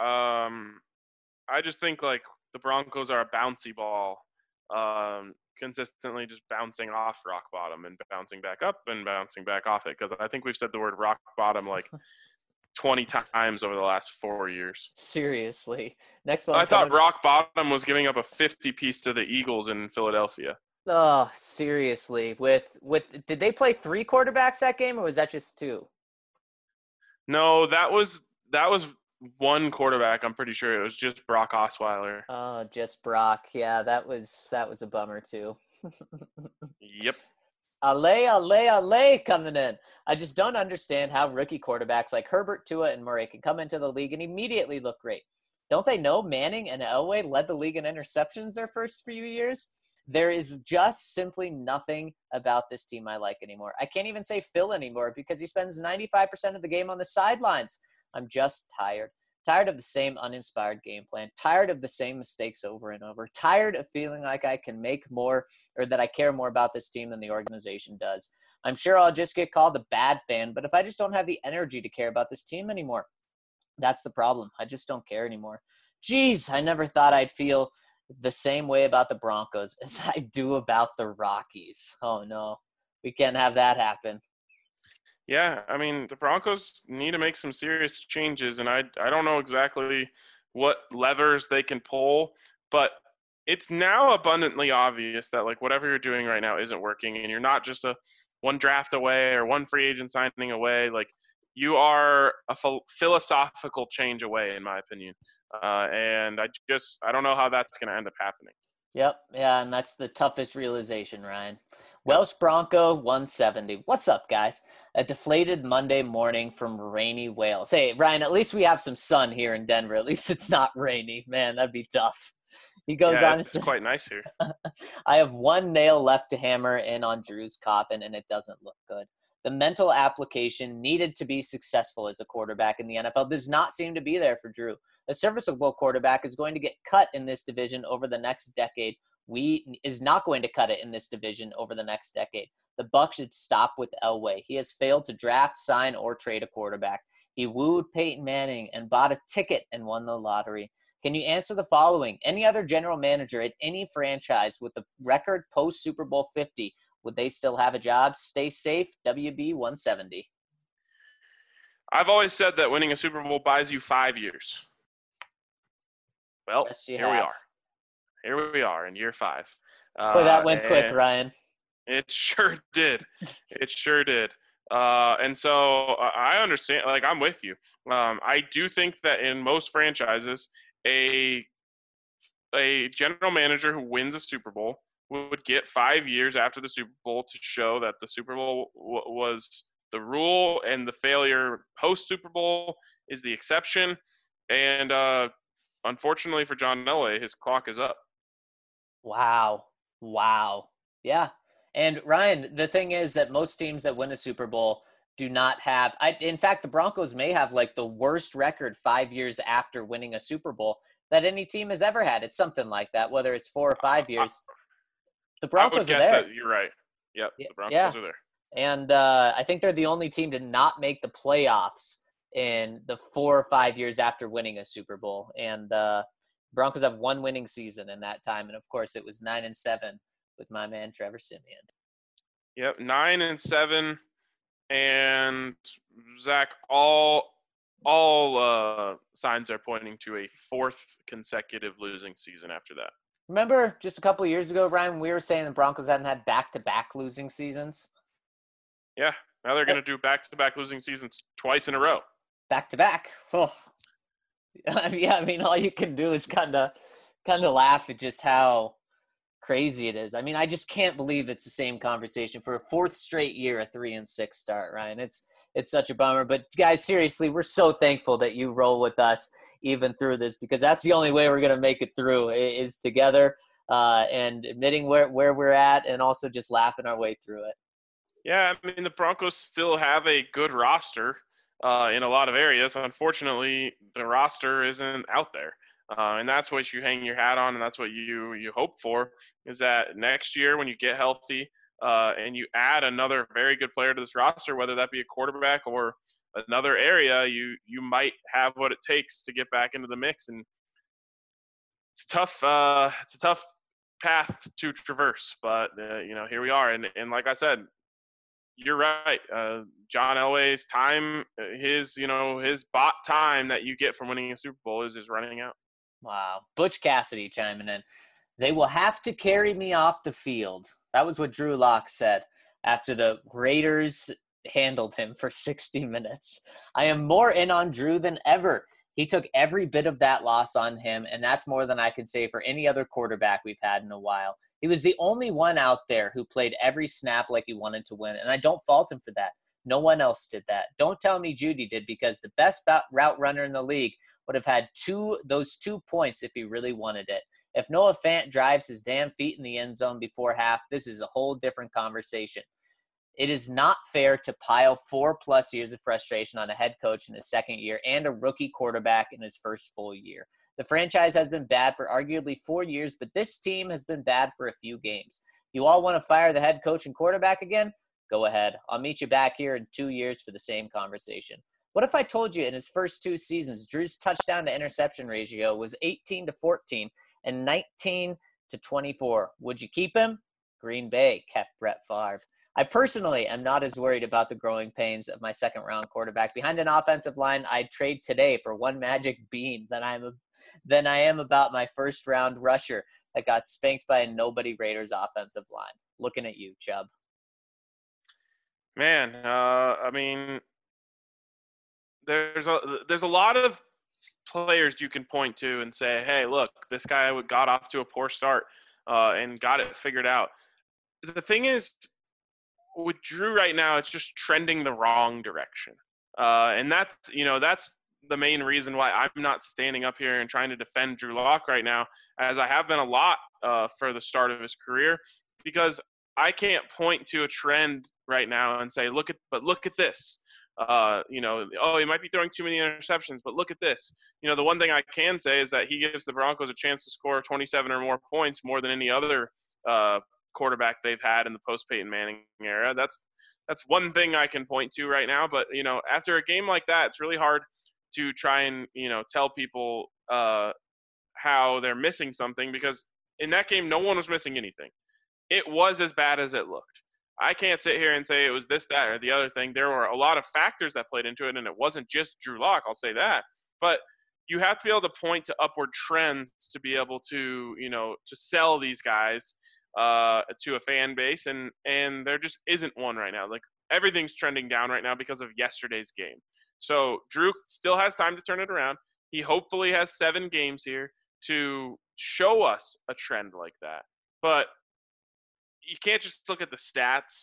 I just think like the Broncos are a bouncy ball, consistently just bouncing off rock bottom and bouncing back up and bouncing back off it. Because I think we've said the word rock bottom like 20 times over the last 4 years. Seriously. Next one. I thought rock bottom was giving up a 50-piece to the Eagles in Philadelphia. Oh, seriously. With did they play 3 quarterbacks that game, or was that just 2? No, that was one quarterback. I'm pretty sure it was just Brock Osweiler. Oh, just Brock. Yeah, that was a bummer too. Yep. Ale coming in. I just don't understand how rookie quarterbacks like Herbert, Tua, and Murray can come into the league and immediately look great. Don't they know Manning and Elway led the league in interceptions their first few years? There is just simply nothing about this team I like anymore. I can't even say Phil anymore because he spends 95% of the game on the sidelines. I'm just tired. Tired of the same uninspired game plan. Tired of the same mistakes over and over. Tired of feeling like I can make more or that I care more about this team than the organization does. I'm sure I'll just get called a bad fan, but if I just don't have the energy to care about this team anymore, that's the problem. I just don't care anymore. Jeez, I never thought I'd feel the same way about the Broncos as I do about the Rockies. Oh no, we can't have that happen. Yeah, I mean, the Broncos need to make some serious changes, and I don't know exactly what levers they can pull, but it's now abundantly obvious that like whatever you're doing right now isn't working, and you're not just a one draft away or one free agent signing away. Like you are a philosophical change away, in my opinion, and I don't know how that's going to end up happening. Yep, yeah, and that's the toughest realization, Ryan. Yep. Welsh Bronco 170. What's up, guys? A deflated Monday morning from rainy Wales. Hey, Ryan, at least we have some sun here in Denver. At least it's not rainy. Man, that'd be tough. He goes Yeah, on and it's says, quite nice here. I have one nail left to hammer in on Drew's coffin, and it doesn't look good. The mental application needed to be successful as a quarterback in the NFL does not seem to be there for Drew. A serviceable quarterback is going to get cut in this division over the next decade. Is not going to cut it in this division over the next decade. The Bucs should stop with Elway. He has failed to draft, sign, or trade a quarterback. He wooed Peyton Manning and bought a ticket and won the lottery. Can you answer the following? Any other general manager at any franchise with the record post Super Bowl 50, would they still have a job? Stay safe, WB 170. I've always said that winning a Super Bowl buys you 5 years. Well, Yes, you here have. we are. Here we are in year 5. Boy, that went quick, And Ryan. it sure did. It sure did. And so I understand. Like I'm with you. I do think that in most franchises, a general manager who wins a Super Bowl would get 5 years after the Super Bowl to show that the Super Bowl was the rule and the failure post Super Bowl is the exception. And unfortunately for John Elway, his clock is up. Wow. Yeah. And Ryan, the thing is that most teams that win a Super Bowl do not have in fact, the Broncos may have like the worst record 5 years after winning a Super Bowl that any team has ever had. It's something like that, whether it's 4 or 5 years. The I would Broncos are guess there. that you're right. Yep, Yeah. the Broncos Yeah. are there. And I think they're the only team to not make the playoffs in the 4 or 5 years after winning a Super Bowl. And Broncos have one winning season in that time. And of course, it was 9-7 with my man Trevor Siemian. Yep, 9-7, and Zach, all signs are pointing to a 4th consecutive losing season after that. Remember just a couple of years ago, Ryan, we were saying the Broncos hadn't had back-to-back losing seasons? Yeah, now they're going to do back-to-back losing seasons twice in a row. Back-to-back. Oh. Yeah, I mean, all you can do is kind of laugh at just how crazy it is. I mean, I just can't believe it's the same conversation for a 4th straight year, a 3-6 start, Ryan. It's such a bummer. But guys, seriously, we're so thankful that you roll with us even through this, because that's the only way we're going to make it through is together and admitting where we're at and also just laughing our way through it. Yeah, I mean, the Broncos still have a good roster in a lot of areas. Unfortunately, the roster isn't out there. And that's what you hang your hat on, and that's what you hope for, is that next year when you get healthy and you add another very good player to this roster, whether that be a quarterback or another area, you might have what it takes to get back into the mix. And it's a tough path to traverse, but here we are. And like I said, you're right. John Elway's time, his bot time that you get from winning a Super Bowl is running out. Wow. Butch Cassidy chiming in. They will have to carry me off the field. That was what Drew Lock said after the Raiders handled him for 60 minutes. I am more in on Drew than ever. He took every bit of that loss on him, and that's more than I could say for any other quarterback we've had in a while. He was the only one out there who played every snap like he wanted to win, and I don't fault him for that. No one else did that. Don't tell me Judy did, because the best route runner in the league would have had those 2 points if he really wanted it. If Noah Fant drives his damn feet in the end zone before half, this is a whole different conversation. It is not fair to pile 4+ years of frustration on a head coach in his second year and a rookie quarterback in his first full year. The franchise has been bad for arguably 4 years, but this team has been bad for a few games. You all want to fire the head coach and quarterback again? Go ahead. I'll meet you back here in 2 years for the same conversation. What if I told you in his first 2 seasons, Drew's touchdown to interception ratio was 18-14 and 19-24? Would you keep him? Green Bay kept Brett Favre. I personally am not as worried about the growing pains of my second-round quarterback behind an offensive line I'd trade today for one magic bean than I am about my first-round rusher that got spanked by a nobody Raiders offensive line. Looking at you, Chubb. Man, I mean, there's a lot of players you can point to and say, hey, look, this guy got off to a poor start and got it figured out. The thing is, with Drew right now, it's just trending the wrong direction. And that's the main reason why I'm not standing up here and trying to defend Drew Lock right now, as I have been a lot for the start of his career, because I can't point to a trend right now and say, look at this. He might be throwing too many interceptions, but look at this. The one thing I can say is that he gives the Broncos a chance to score 27 or more points more than any other quarterback they've had in the post-Peyton Manning era. That's one thing I can point to right now. But, after a game like that, it's really hard to try and, tell people how they're missing something, because in that game, no one was missing anything. It was as bad as it looked. I can't sit here and say it was this, that, or the other thing. There were a lot of factors that played into it, and it wasn't just Drew Lock, I'll say that. But you have to be able to point to upward trends to be able to, to sell these guys to a fan base, and there just isn't one right now. Like, everything's trending down right now because of yesterday's game. So Drew still has time to turn it around. He hopefully has 7 games here to show us a trend like that. But you can't just look at the stats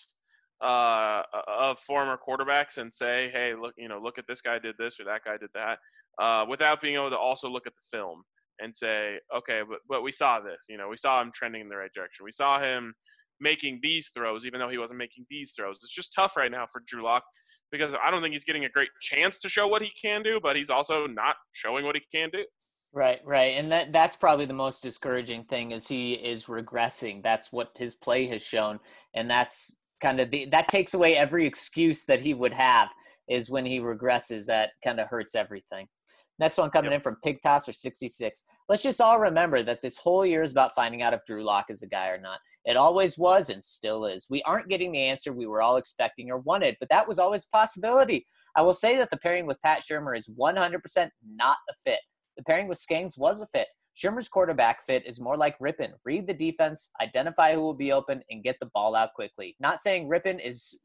of former quarterbacks and say, hey, look at this guy did this or that guy did that, without being able to also look at the film and say, okay, but we saw this. We saw him trending in the right direction. We saw him making these throws, even though he wasn't making these throws. It's just tough right now for Drew Lock, because I don't think he's getting a great chance to show what he can do, but he's also not showing what he can do. Right. And that's probably the most discouraging thing, is he is regressing. That's what his play has shown. And that's kind of that takes away every excuse that he would have, is when he regresses. That kind of hurts everything. Next one coming in from Pig Tosser 66. Let's just all remember that this whole year is about finding out if Drew Lock is a guy or not. It always was and still is. We aren't getting the answer we were all expecting or wanted, but that was always a possibility. I will say that the pairing with Pat Shurmur is 100% not a fit. The pairing with Skangs was a fit. Shurmur's quarterback fit is more like Rypien. Read the defense, identify who will be open, and get the ball out quickly. Not saying Rypien is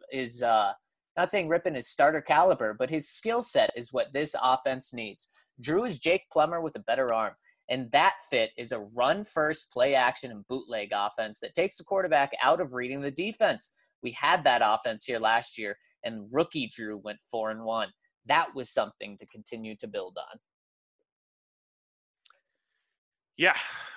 starter caliber, but his skill set is what this offense needs. Drew is Jake Plummer with a better arm, and that fit is a run-first, play-action, and bootleg offense that takes the quarterback out of reading the defense. We had that offense here last year, and rookie Drew went 4-1. That was something to continue to build on. Yeah,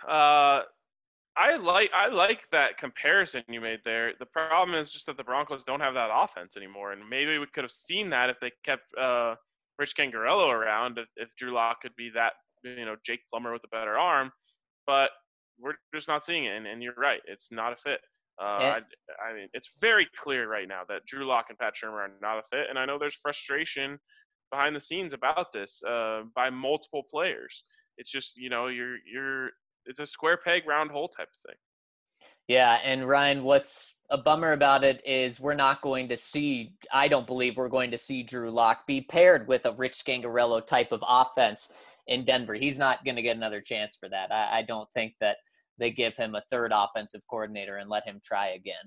I like that comparison you made there. The problem is just that the Broncos don't have that offense anymore, and maybe we could have seen that if they kept Rich Scangarello around, if Drew Lock could be that, Jake Plummer with a better arm, but we're just not seeing it. And you're right, it's not a fit. I mean, it's very clear right now that Drew Lock and Pat Shurmur are not a fit, and I know there's frustration behind the scenes about this by multiple players. It's just, it's a square peg, round hole type of thing. Yeah, and Ryan, what's a bummer about it is I don't believe we're going to see Drew Lock be paired with a Rich Scangarello type of offense in Denver. He's not going to get another chance for that. I don't think that they give him a third offensive coordinator and let him try again.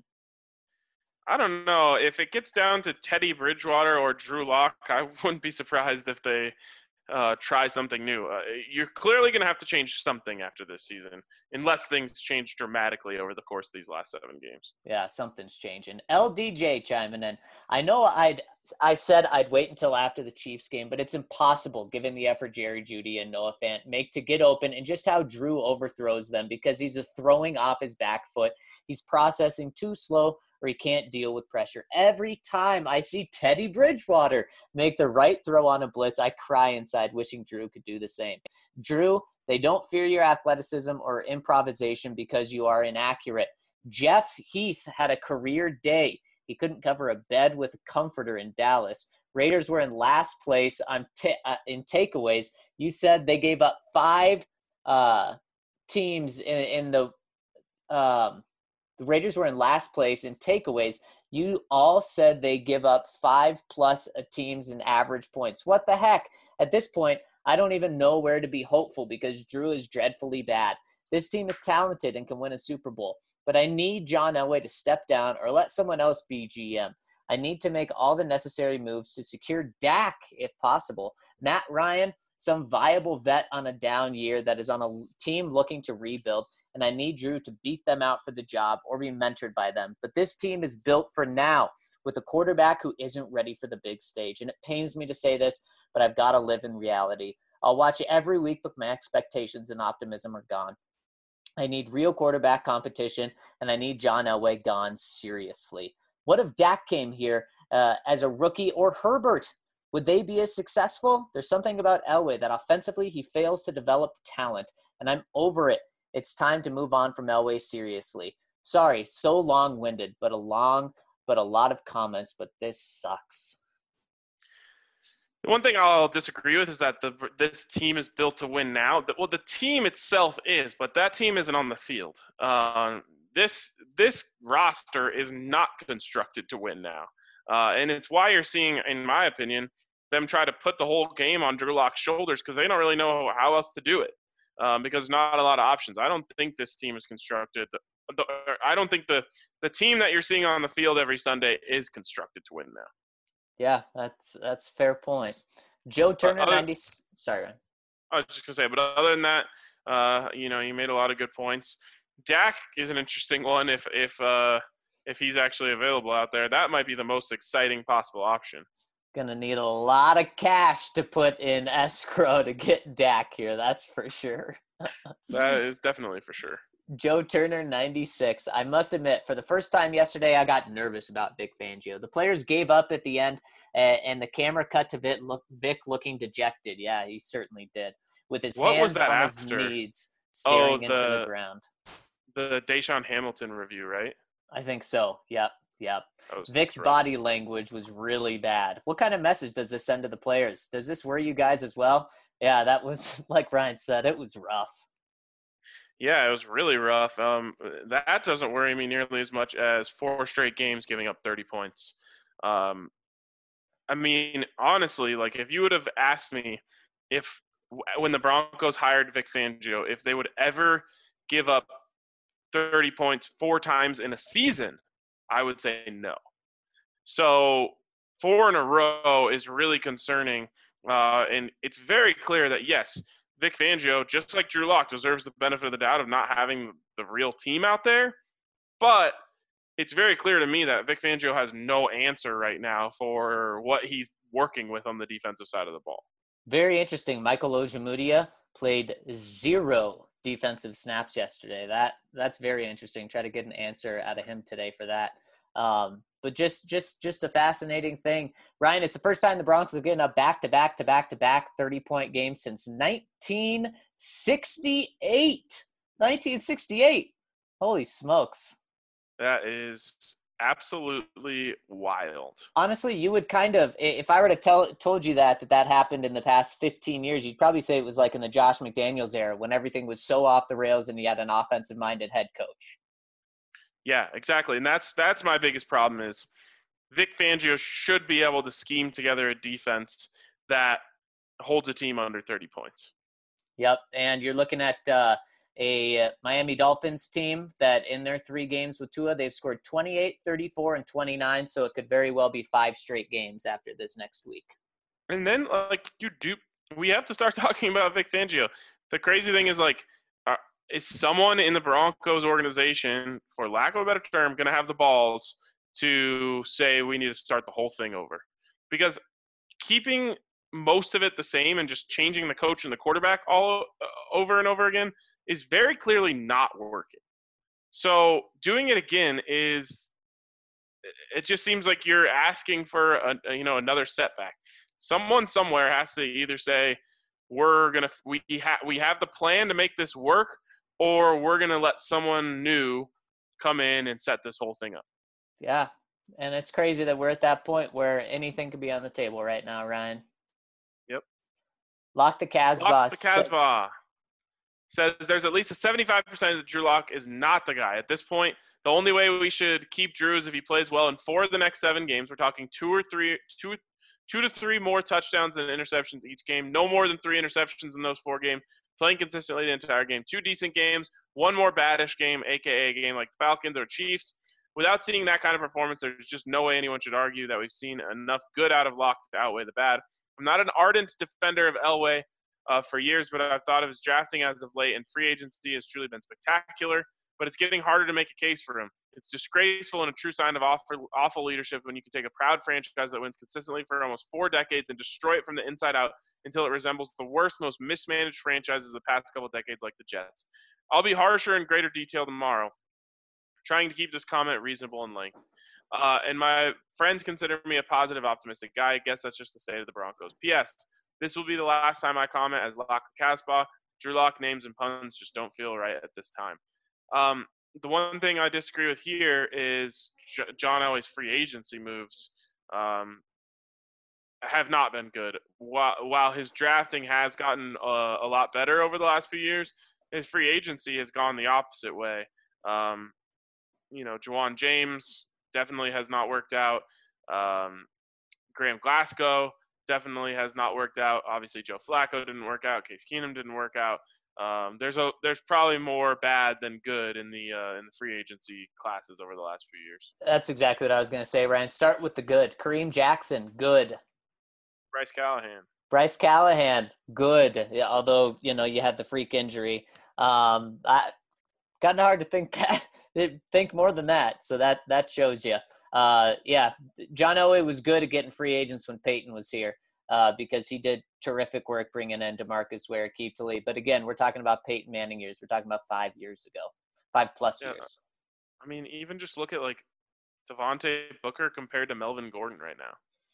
I don't know. If it gets down to Teddy Bridgewater or Drew Lock, I wouldn't be surprised if they try something new. You're clearly going to have to change something after this season, unless things change dramatically over the course of these last 7 games. Yeah, something's changing. LDJ chiming in. I know I said I'd wait until after the Chiefs game, but it's impossible given the effort Jerry Jeudy and Noah Fant make to get open and just how Drew overthrows them because he's throwing off his back foot. He's processing too slow or he can't deal with pressure. Every time I see Teddy Bridgewater make the right throw on a blitz, I cry inside wishing Drew could do the same. Drew, they don't fear your athleticism or improvisation because you are inaccurate. Jeff Heath had a career day. He couldn't cover a bed with a comforter in Dallas. Raiders were in last place in takeaways. You said they gave up 5 teams in the Raiders were in last place in takeaways. You all said they give up 5+ teams in average points. What the heck? At this point, I don't even know where to be hopeful because Drew is dreadfully bad. This team is talented and can win a Super Bowl, but I need John Elway to step down or let someone else be GM. I need to make all the necessary moves to secure Dak if possible. Matt Ryan, some viable vet on a down year that is on a team looking to rebuild, and I need Drew to beat them out for the job or be mentored by them. But this team is built for now with a quarterback who isn't ready for the big stage. And it pains me to say this, but I've got to live in reality. I'll watch it every week, but my expectations and optimism are gone. I need real quarterback competition, and I need John Elway gone seriously. What if Dak came here as a rookie or Herbert? Would they be as successful? There's something about Elway that offensively he fails to develop talent, and I'm over it. It's time to move on from Elway seriously. Sorry, so long-winded, but a lot of comments, but this sucks. The one thing I'll disagree with is that this team is built to win now. Well, the team itself is, but that team isn't on the field. This roster is not constructed to win now. And it's why you're seeing, in my opinion, them try to put the whole game on Drew Lock's shoulders because they don't really know how else to do it. Because not a lot of options. I don't think this team is constructed. I don't think the team that you're seeing on the field every Sunday is constructed to win now. Yeah, that's a fair point. Joe Turner, 90. Sorry, Ryan. I was just gonna say, but other than that, you made a lot of good points. Dak is an interesting one. If he's actually available out there, that might be the most exciting possible option. Gonna need a lot of cash to put in escrow to get Dak here. That's for sure. That is definitely for sure. Joe Turner, 96. I must admit, for the first time yesterday, I got nervous about Vic Fangio. The players gave up at the end, and the camera cut to Vic looking dejected. Yeah, he certainly did. With his hands on his knees, staring into the ground. The Deshaun Hamilton review, right? I think so. Yep. Vic's body language was really bad. What kind of message does this send to the players? Does this worry you guys as well? Yeah, that was, like Ryan said, it was rough. Yeah, it was really rough. That doesn't worry me nearly as much as 4 straight games giving up 30 points. I mean, honestly, like if you would have asked me when the Broncos hired Vic Fangio, if they would ever give up 30 points 4 times in a season, I would say no. So 4 in a row is really concerning. And it's very clear that, yes, Vic Fangio, just like Drew Lock, deserves the benefit of the doubt of not having the real team out there. But it's very clear to me that Vic Fangio has no answer right now for what he's working with on the defensive side of the ball. Very interesting. Michael Ojemudia played 0 defensive snaps yesterday. That's very interesting. Try to get an answer out of him today for that. But just a fascinating thing. Ryan, it's the first time the Broncos have gotten a back-to-back 30-point game since 1968. 1968. Holy smokes. That is absolutely wild. Honestly, you would kind of, if I were to told you that happened in the past 15 years, you'd probably say it was like in the Josh McDaniels era when everything was so off the rails and you had an offensive-minded head coach. Yeah, exactly. And that's my biggest problem is Vic Fangio should be able to scheme together a defense that holds a team under 30 points. Yep. And you're looking at a Miami Dolphins team that in their 3 games with Tua, they've scored 28, 34, and 29. So it could very well be 5 straight games after this next week. And then, we have to start talking about Vic Fangio. The crazy thing is, is someone in the Broncos organization, for lack of a better term, going to have the balls to say we need to start the whole thing over? Because keeping most of it the same and just changing the coach and the quarterback all over and over again is very clearly not working. So doing it again it just seems like you're asking for another setback. Someone somewhere has to either say we have the plan to make this work, or we're gonna let someone new come in and set this whole thing up. Yeah, and it's crazy that we're at that point where anything could be on the table right now, Ryan. Yep. Lock the Casbah. Lock the Casbah says there's at least a 75% that Drew Lock is not the guy. At this point, the only way we should keep Drew is if he plays well in 4 of the next 7 games. We're talking 2 to 3 more touchdowns and interceptions each game. No more than 3 interceptions in those 4 games. Playing consistently the entire game. 2 decent games. 1 more badish game, a.k.a. a game like the Falcons or Chiefs. Without seeing that kind of performance, there's just no way anyone should argue that we've seen enough good out of Lock to outweigh the bad. I'm not an ardent defender of Elway for years, but I've thought of his drafting as of late, and free agency has truly been spectacular. But it's getting harder to make a case for him. It's disgraceful and a true sign of awful leadership when you can take a proud franchise that wins consistently for almost 4 decades and destroy it from the inside out until it resembles the worst, most mismanaged franchises of the past couple of decades like the Jets. I'll be harsher in greater detail tomorrow, trying to keep this comment reasonable in length. And my friends consider me a positive, optimistic guy. I guess that's just the state of the Broncos. P.S. This will be the last time I comment as Lock the Casbah. Drew Lock names and puns just don't feel right at this time. The one thing I disagree with here is John Elway's free agency moves have not been good. While his drafting has gotten a lot better over the last few years, his free agency has gone the opposite way. Juwan James definitely has not worked out. Graham Glasgow definitely has not worked out. Obviously, Joe Flacco didn't work out. Case Keenum didn't work out. There's probably more bad than good in the free agency classes over the last few years. That's exactly what I was going to say, Ryan. Start with the good. Kareem Jackson, good. Bryce Callahan, good. Yeah, although you had the freak injury. Kind of hard to think more than that. So that shows you. John Elway was good at getting free agents when Peyton was here. Because he did terrific work bringing in DeMarcus Ware, Aqib Talib. But again, we're talking about Peyton Manning years. We're talking about 5 years ago, 5+ years. I mean, even just look at Devontae Booker compared to Melvin Gordon right now.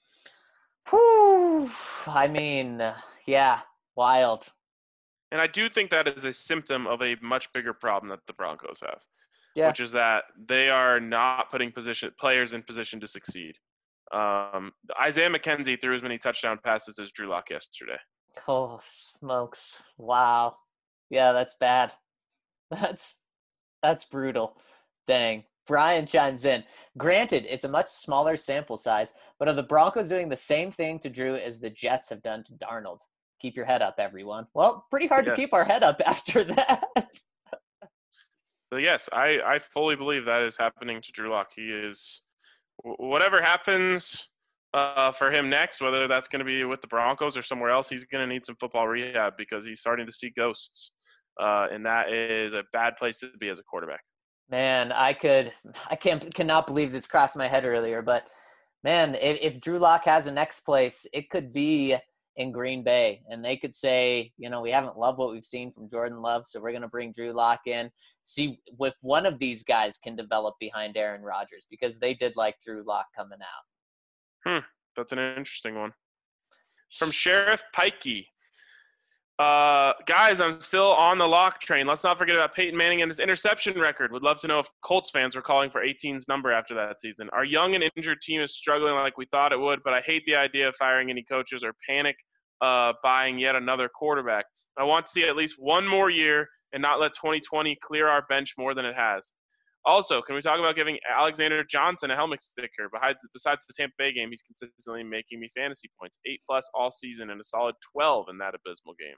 Whew. I mean, yeah, wild. And I do think that is a symptom of a much bigger problem that the Broncos have, which is that they are not putting players in position to succeed. Isaiah McKenzie threw as many touchdown passes as Drew Lock yesterday. Oh, smokes. Wow. Yeah, that's bad. That's brutal. Dang. Brian chimes in. Granted, it's a much smaller sample size, but are the Broncos doing the same thing to Drew as the Jets have done to Darnold? Keep your head up, everyone. Well, pretty hard to keep our head up after that. So yes, I fully believe that is happening to Drew Lock. He is – whatever happens for him next, whether that's going to be with the Broncos or somewhere else, he's going to need some football rehab because he's starting to see ghosts. And that is a bad place to be as a quarterback. Man, I cannot believe this crossed my head earlier, but man, if Drew Lock has a next place, it could be in Green Bay, and they could say, we haven't loved what we've seen from Jordan Love, so we're going to bring Drew Lock in, see if one of these guys can develop behind Aaron Rodgers, because they did like Drew Lock coming out. That's an interesting one. From Sheriff Pikey. Guys, I'm still on the Lock train. Let's not forget about Peyton Manning and his interception record. Would love to know if Colts fans were calling for 18's number after that season. Our young and injured team is struggling like we thought it would, but I hate the idea of firing any coaches or panic buying yet another quarterback. I want to see at least one more year and not let 2020 clear our bench more than it has. Also, can we talk about giving Alexander Johnson a helmet sticker? Besides the Tampa Bay game, he's consistently making me fantasy points, 8+ all season and a solid 12 in that abysmal game.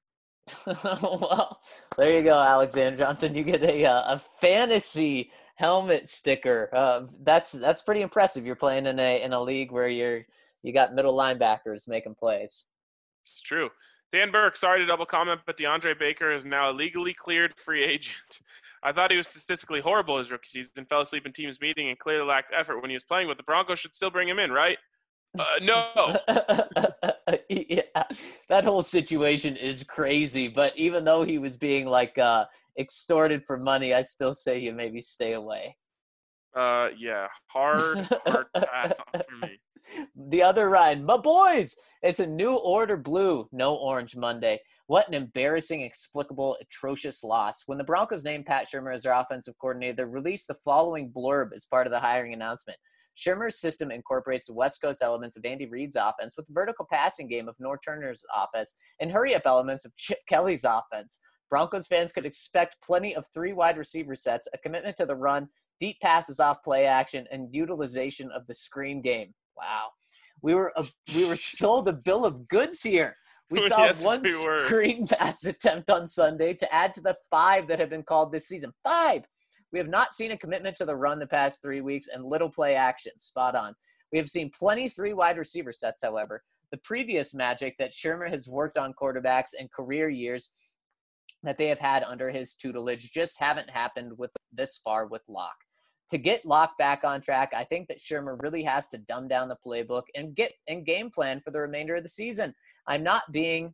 Well, there you go, Alexander Johnson. You get a fantasy helmet sticker. That's pretty impressive. You're playing in a league where you got middle linebackers making plays. It's true. Dan Burke, sorry to double comment, but DeAndre Baker is now a legally cleared free agent. I thought he was statistically horrible his rookie season, fell asleep in teams meeting, and clearly lacked effort when he was playing, but the Broncos should still bring him in, right? No. Yeah, that whole situation is crazy. But even though he was being extorted for money, I still say you maybe stay away. Yeah, hard pass on for me. The other Ryan, my boys, it's a new order blue, no orange Monday. What an embarrassing, explicable, atrocious loss. When the Broncos named Pat Shurmur as their offensive coordinator, they released the following blurb as part of the hiring announcement. Shurmur's system incorporates the West Coast elements of Andy Reid's offense with the vertical passing game of Norv Turner's offense and hurry-up elements of Chip Kelly's offense. Broncos fans could expect plenty of 3 wide receiver sets, a commitment to the run, deep passes off play action, and utilization of the screen game. Wow. We were sold a bill of goods here. We saw Yes, one we were. screen pass attempt on Sunday to add to the 5 that have been called this season. 5! We have not seen a commitment to the run the past 3 weeks and little play action. Spot on. We have seen plenty 3 wide receiver sets, however. The previous magic that Shurmur has worked on quarterbacks in career years that they have had under his tutelage just haven't happened with this far with Locke. To get Locke back on track, I think that Shurmur really has to dumb down the playbook and get in game plan for the remainder of the season. I'm not being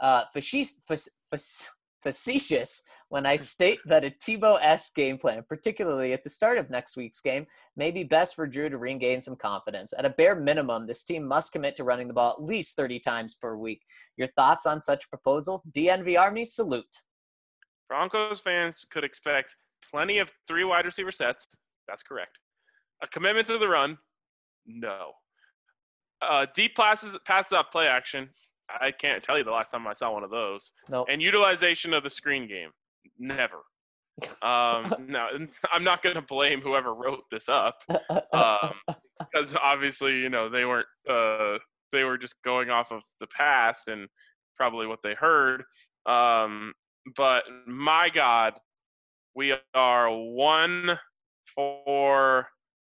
facetious when I state that a Tebow-esque game plan, particularly at the start of next week's game, may be best for Drew to regain some confidence. At a bare minimum, this team must commit to running the ball at least 30 times per week. Your thoughts on such a proposal? DNV Army, salute. Broncos fans could expect plenty of 3 wide receiver sets. That's correct. A commitment to the run? No. Deep passes off play action? I can't tell you the last time I saw one of those. Nope. And utilization of the screen game? Never. No, I'm not going to blame whoever wrote this up because obviously, they weren't. They were just going off of the past and probably what they heard. But my God, we are 1 for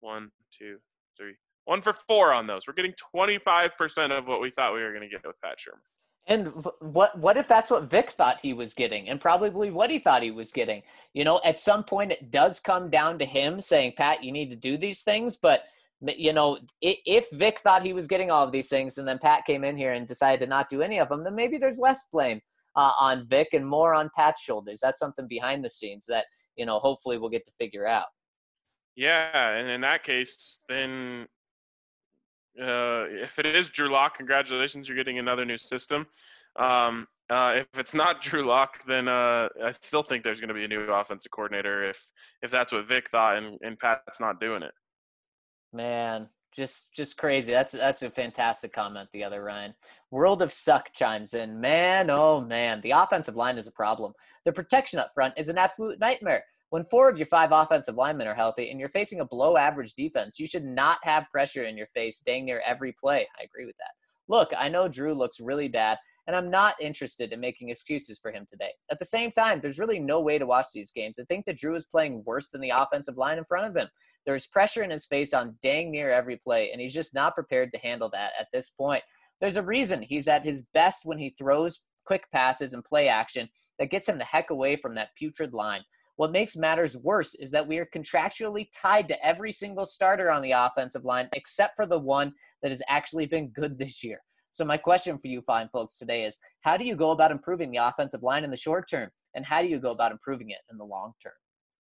4 on those. We're getting 25% of what we thought we were going to get with Pat Shurmur. And what if that's what Vic thought he was getting and probably what he thought he was getting? At some point it does come down to him saying, Pat, you need to do these things. But, if Vic thought he was getting all of these things and then Pat came in here and decided to not do any of them, then maybe there's less blame on Vic and more on Pat's shoulders. That's something behind the scenes that, hopefully we'll get to figure out. Yeah, and in that case, then if it is Drew Lock, congratulations, you're getting another new system. If it's not Drew Lock, then I still think there's going to be a new offensive coordinator if that's what Vic thought and Pat's not doing it. Man, just crazy. That's a fantastic comment, the other Ryan. World of Suck chimes in. Man, oh man, the offensive line is a problem. The protection up front is an absolute nightmare. When 4 of your 5 offensive linemen are healthy and you're facing a below-average defense, you should not have pressure in your face dang near every play. I agree with that. Look, I know Drew looks really bad, and I'm not interested in making excuses for him today. At the same time, there's really no way to watch these games and think that Drew is playing worse than the offensive line in front of him. There's pressure in his face on dang near every play, and he's just not prepared to handle that at this point. There's a reason he's at his best when he throws quick passes and play action that gets him the heck away from that putrid line. What makes matters worse is that we are contractually tied to every single starter on the offensive line except for the one that has actually been good this year. So my question for you fine folks today is, how do you go about improving the offensive line in the short term? And how do you go about improving it in the long term?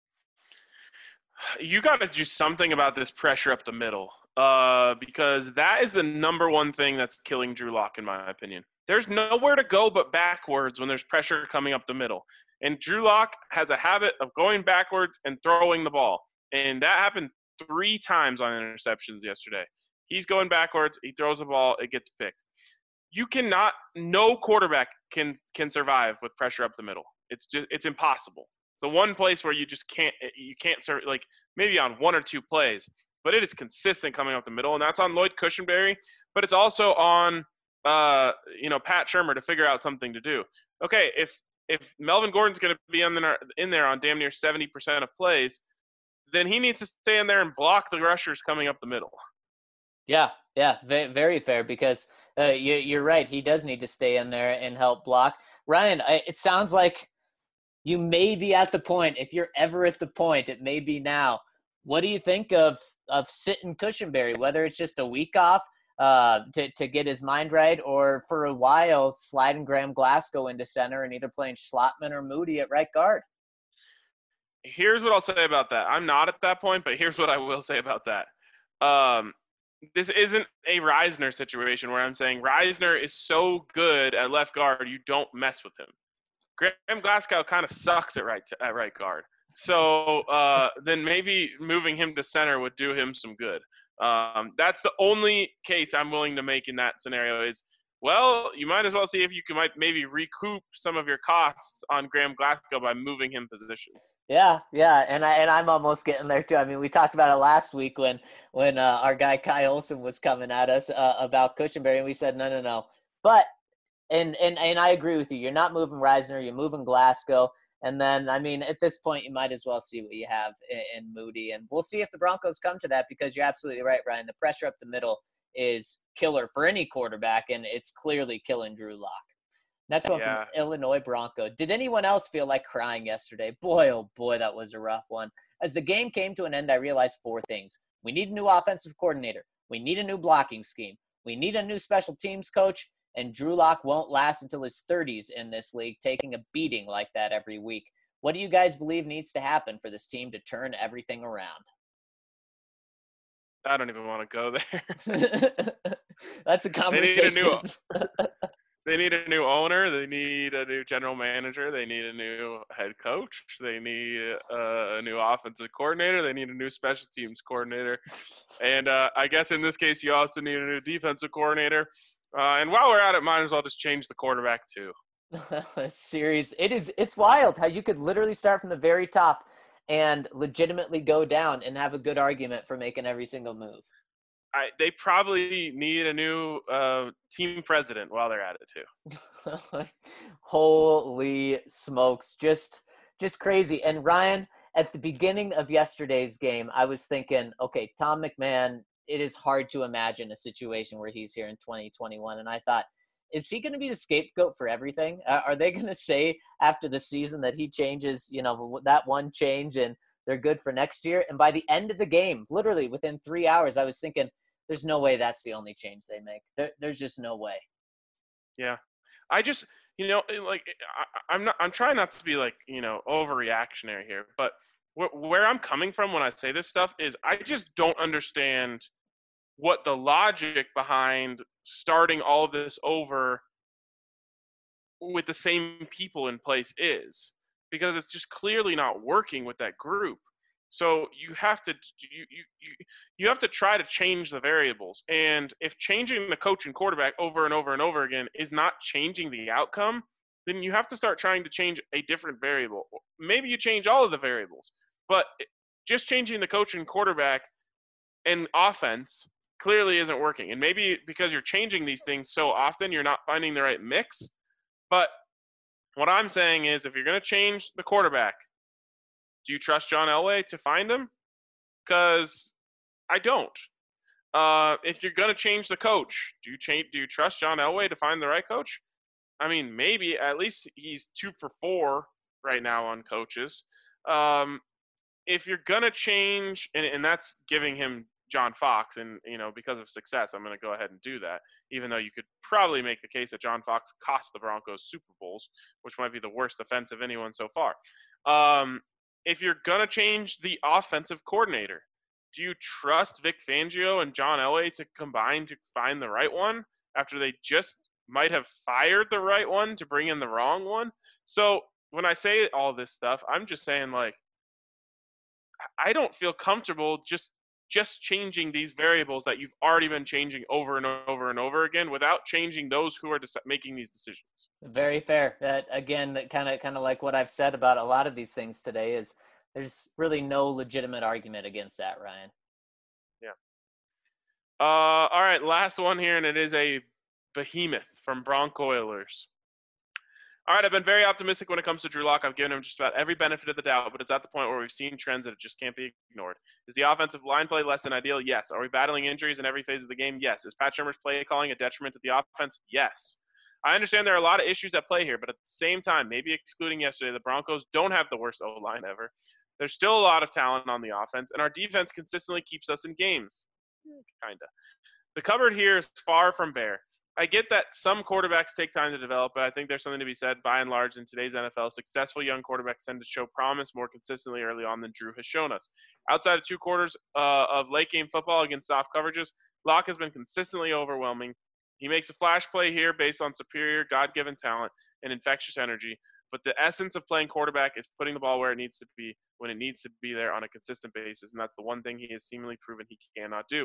You got to do something about this pressure up the middle because that is the number one thing that's killing Drew Lock, in my opinion. There's nowhere to go but backwards when there's pressure coming up the middle. And Drew Lock has a habit of going backwards and throwing the ball. And that happened 3 times on interceptions yesterday. He's going backwards, he throws the ball, it gets picked. No quarterback can survive with pressure up the middle. It's impossible. It's the one place where you can't serve, like maybe on 1 or 2 plays, but it is consistent coming up the middle. And that's on Lloyd Cushenberry, but it's also on, Pat Shurmur to figure out something to do. Okay, if if Melvin Gordon's going to be in there on damn near 70% of plays, then he needs to stay in there and block the rushers coming up the middle. Yeah, very fair, because you're right. He does need to stay in there and help block. Ryan, it sounds like you may be at the point, if you're ever at the point, it may be now. What do you think of sitting Cushenberry, whether it's just a week off to get his mind right, or for a while sliding Graham Glasgow into center and either playing Schlottman or Moody at right guard? Here's what I'll say about that. I'm not at that point, but here's what I will say about that. This isn't a Reisner situation where I'm saying Reisner is so good at left guard, you don't mess with him. Graham Glasgow kind of sucks at right guard. So then maybe moving him to center would do him some good. That's the only case I'm willing to make in that scenario is, well, you might as well see if you might maybe recoup some of your costs on Graham Glasgow by moving him positions. Yeah, and I'm almost getting there too. I mean, we talked about it last week when our guy Kai Olsen was coming at us about Cushenberry, and we said no. But and I agree with you. You're not moving Reisner, you're moving Glasgow. And then, I mean, at this point, you might as well see what you have in Moody. And we'll see if the Broncos come to that, because you're absolutely right, Ryan. The pressure up the middle is killer for any quarterback, and it's clearly killing Drew Lock. Next one from Illinois Bronco. Did anyone else feel like crying yesterday? Boy, oh boy, that was a rough one. As the game came to an end, I realized 4 things. We need a new offensive coordinator. We need a new blocking scheme. We need a new special teams coach. And Drew Lock won't last until his 30s in this league, taking a beating like that every week. What do you guys believe needs to happen for this team to turn everything around? I don't even want to go there. That's a conversation. They need a new owner. They need a new general manager. They need a new head coach. They need a new offensive coordinator. They need a new special teams coordinator. And I guess in this case, you also need a new defensive coordinator. And while we're at it, might as well just change the quarterback too. Serious. It's wild how you could literally start from the very top and legitimately go down and have a good argument for making every single move. They probably need a new team president while they're at it too. Holy smokes. Just crazy. And Ryan, at the beginning of yesterday's game, I was thinking, okay, Tom McMahon, it is hard to imagine a situation where he's here in 2021. And I thought, is he going to be the scapegoat for everything? Are they going to say after the season that he changes, that one change and they're good for next year? And by the end of the game, literally within 3 hours, I was thinking, there's no way that's the only change they make. There's just no way. Yeah. I just, I'm trying not to be overreactionary here, but where I'm coming from when I say this stuff is I just don't understand what the logic behind starting all of this over with the same people in place is, because it's just clearly not working with that group. So you have to try to change the variables. And if changing the coach and quarterback over and over and over again is not changing the outcome, then you have to start trying to change a different variable. Maybe you change all of the variables, but just changing the coach and quarterback and offense clearly isn't working. And maybe because you're changing these things so often, you're not finding the right mix. But what I'm saying is, if you're going to change the quarterback, do you trust John Elway to find him? Because I don't. If you're going to change the coach, do you trust John Elway to find the right coach? I mean, maybe. At least he's 2 for 4 right now on coaches. If you're going to change, and that's giving him John Fox, and because of success, I'm going to go ahead and do that, even though you could probably make the case that John Fox cost the Broncos Super Bowls, which might be the worst offense of anyone so far. If you're going to change the offensive coordinator, do you trust Vic Fangio and John Elway to combine to find the right one after they just might have fired the right one to bring in the wrong one? So when I say all this stuff, I'm just saying, I don't feel comfortable just changing these variables that you've already been changing over and over and over again without changing those who are making these decisions. Very fair. That, again, kind of like what I've said about a lot of these things today, is there's really no legitimate argument against that, Ryan. Yeah. All right, last one here, and it is a behemoth from Bronco Oilers. All right, I've been very optimistic when it comes to Drew Lock. I've given him just about every benefit of the doubt, but it's at the point where we've seen trends that just can't be ignored. Is the offensive line play less than ideal? Yes. Are we battling injuries in every phase of the game? Yes. Is Pat Shurmur's play calling a detriment to the offense? Yes. I understand there are a lot of issues at play here, but at the same time, maybe excluding yesterday, the Broncos don't have the worst O-line ever. There's still a lot of talent on the offense, and our defense consistently keeps us in games. Kinda. The cupboard here is far from bare. I get that some quarterbacks take time to develop, but I think there's something to be said, by and large, in today's NFL. Successful young quarterbacks tend to show promise more consistently early on than Drew has shown us. Outside of 2 quarters of late-game football against soft coverages, Locke has been consistently overwhelming. He makes a flash play here based on superior God-given talent and infectious energy, but the essence of playing quarterback is putting the ball where it needs to be when it needs to be there on a consistent basis, and that's the one thing he has seemingly proven he cannot do.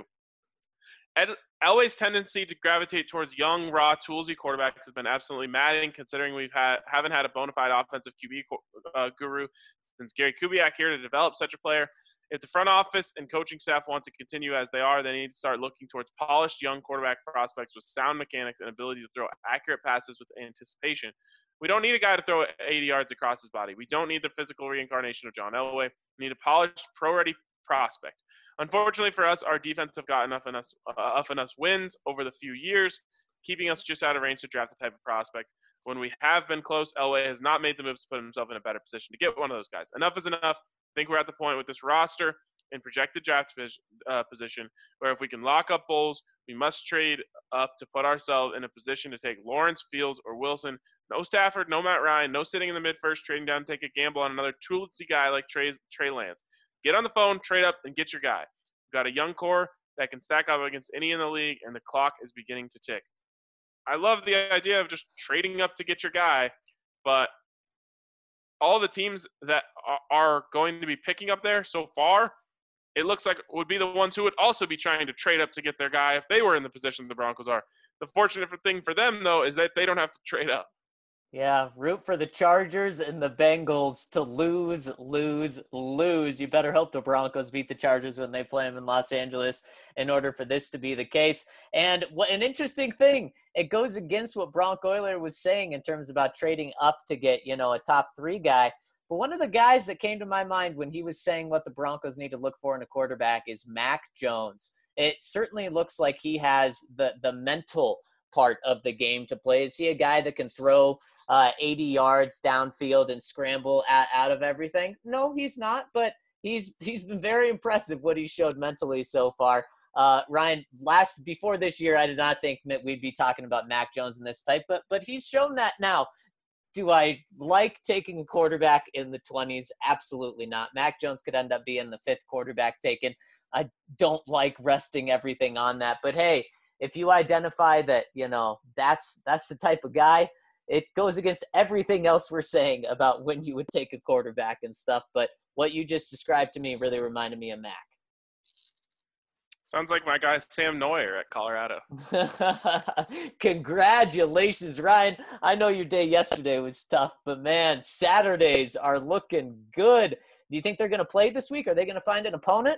Elway's tendency to gravitate towards young, raw, toolsy quarterbacks has been absolutely maddening, considering haven't had a bona fide offensive QB guru since Gary Kubiak here to develop such a player. If the front office and coaching staff want to continue as they are, they need to start looking towards polished young quarterback prospects with sound mechanics and ability to throw accurate passes with anticipation. We don't need a guy to throw 80 yards across his body. We don't need the physical reincarnation of John Elway. We need a polished, pro-ready prospect. Unfortunately for us, our defense have gotten enough wins over the few years, keeping us just out of range to draft the type of prospect. When we have been close, Elway has not made the moves to put himself in a better position to get one of those guys. Enough is enough. I think we're at the point with this roster and projected draft position where if we can lock up Bowles, we must trade up to put ourselves in a position to take Lawrence, Fields, or Wilson. No Stafford, no Matt Ryan, no sitting in the mid-first, trading down to take a gamble on another toolsy guy like Trey Lance. Get on the phone, trade up, and get your guy. We've got a young core that can stack up against any in the league, and the clock is beginning to tick. I love the idea of just trading up to get your guy, but all the teams that are going to be picking up there so far, it looks like would be the ones who would also be trying to trade up to get their guy if they were in the position the Broncos are. The fortunate thing for them, though, is that they don't have to trade up. Yeah, root for the Chargers and the Bengals to lose. You better hope the Broncos beat the Chargers when they play them in Los Angeles in order for this to be the case. And what an interesting thing, it goes against what Bronk Euler was saying in terms about trading up to get, a top 3 guy. But one of the guys that came to my mind when he was saying what the Broncos need to look for in a quarterback is Mac Jones. It certainly looks like he has the mental part of the game to play. Is he a guy that can throw 80 yards downfield and scramble out of everything? No, he's not, but he's been very impressive what he showed mentally so far. Ryan, before this year, I did not think that we'd be talking about Mac Jones in this type, but he's shown that now. Do I like taking a quarterback in the 20s? Absolutely not. Mac Jones could end up being the 5th quarterback taken. I don't like resting everything on that, but hey, if you identify that, that's the type of guy, it goes against everything else we're saying about when you would take a quarterback and stuff. But what you just described to me really reminded me of Mac. Sounds like my guy Sam Neuer at Colorado. Congratulations, Ryan. I know your day yesterday was tough, but man, Saturdays are looking good. Do you think they're going to play this week? Are they going to find an opponent?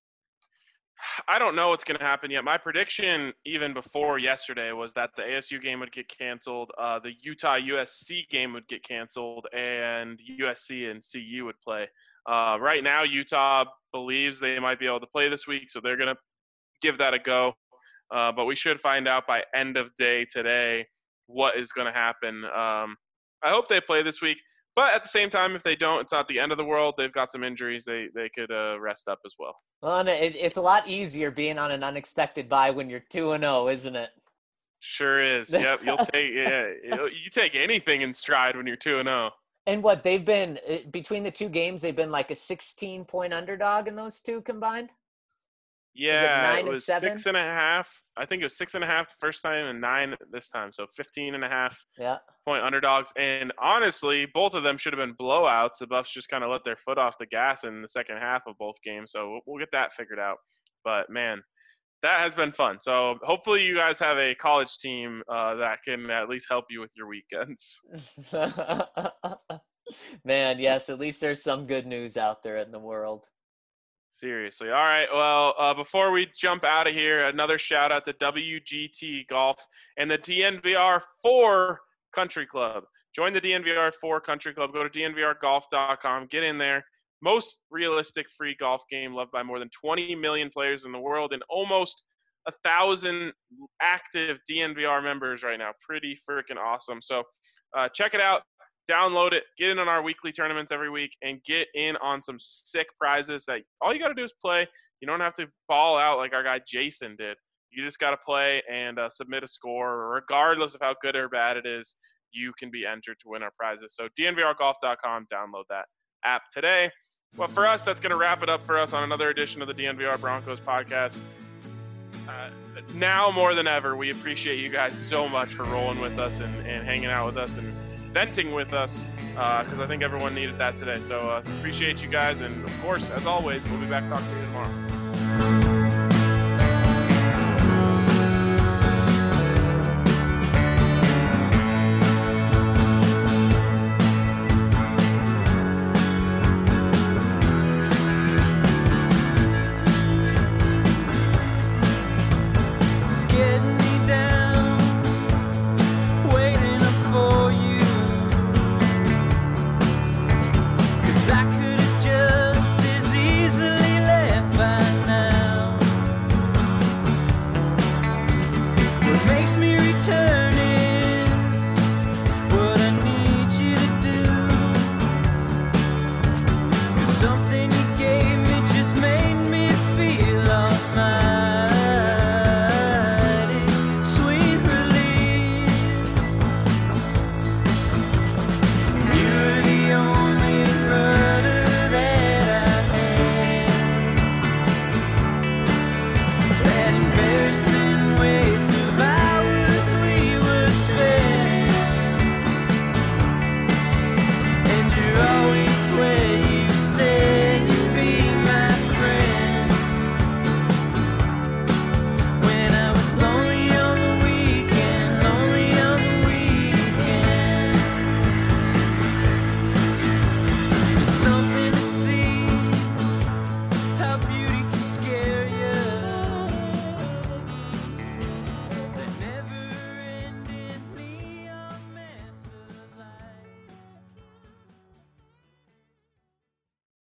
I don't know what's going to happen yet. My prediction, even before yesterday, was that the ASU game would get canceled, the Utah-USC game would get canceled, and USC and CU would play. Right now, Utah believes they might be able to play this week, so they're going to give that a go. But we should find out by end of day today what is going to happen. I hope they play this week. But at the same time, if they don't, it's not the end of the world. They've got some injuries. They could rest up as well. Well, it's a lot easier being on an unexpected bye when you're 2-0, isn't it? Sure is. Yep, you take anything in stride when you're 2-0. And what they've been between the 2 games, they've been like a 16-point underdog in those 2 combined. Yeah, it was 6.5. I think it was 6.5 the first time and 9 this time. So 15.5 point underdogs. And honestly, both of them should have been blowouts. The Buffs just kind of let their foot off the gas in the second half of both games. So we'll get that figured out. But man, that has been fun. So hopefully you guys have a college team that can at least help you with your weekends. Man, yes, at least there's some good news out there in the world. Seriously. All right. Well, before we jump out of here, another shout out to WGT Golf and the DNVR 4 Country Club. Join the DNVR4 Country Club. Go to dnvrgolf.com. Get in there. Most realistic free golf game loved by more than 20 million players in the world and almost 1,000 active DNVR members right now. Pretty freaking awesome. So check it out. Download it. Get in on our weekly tournaments every week and get in on some sick prizes that all you got to do is play. You don't have to ball out like our guy Jason did. You just got to play and submit a score. Regardless of how good or bad it is, you can be entered to win our prizes. So dnvrgolf.com, download that app today. Well, for us, that's going to wrap it up for us on another edition of the DNVR Broncos podcast. Now more than ever, we appreciate you guys so much for rolling with us and hanging out with us and venting with us because I think everyone needed that today. So appreciate you guys. And, of course, as always, we'll be back talking to you tomorrow.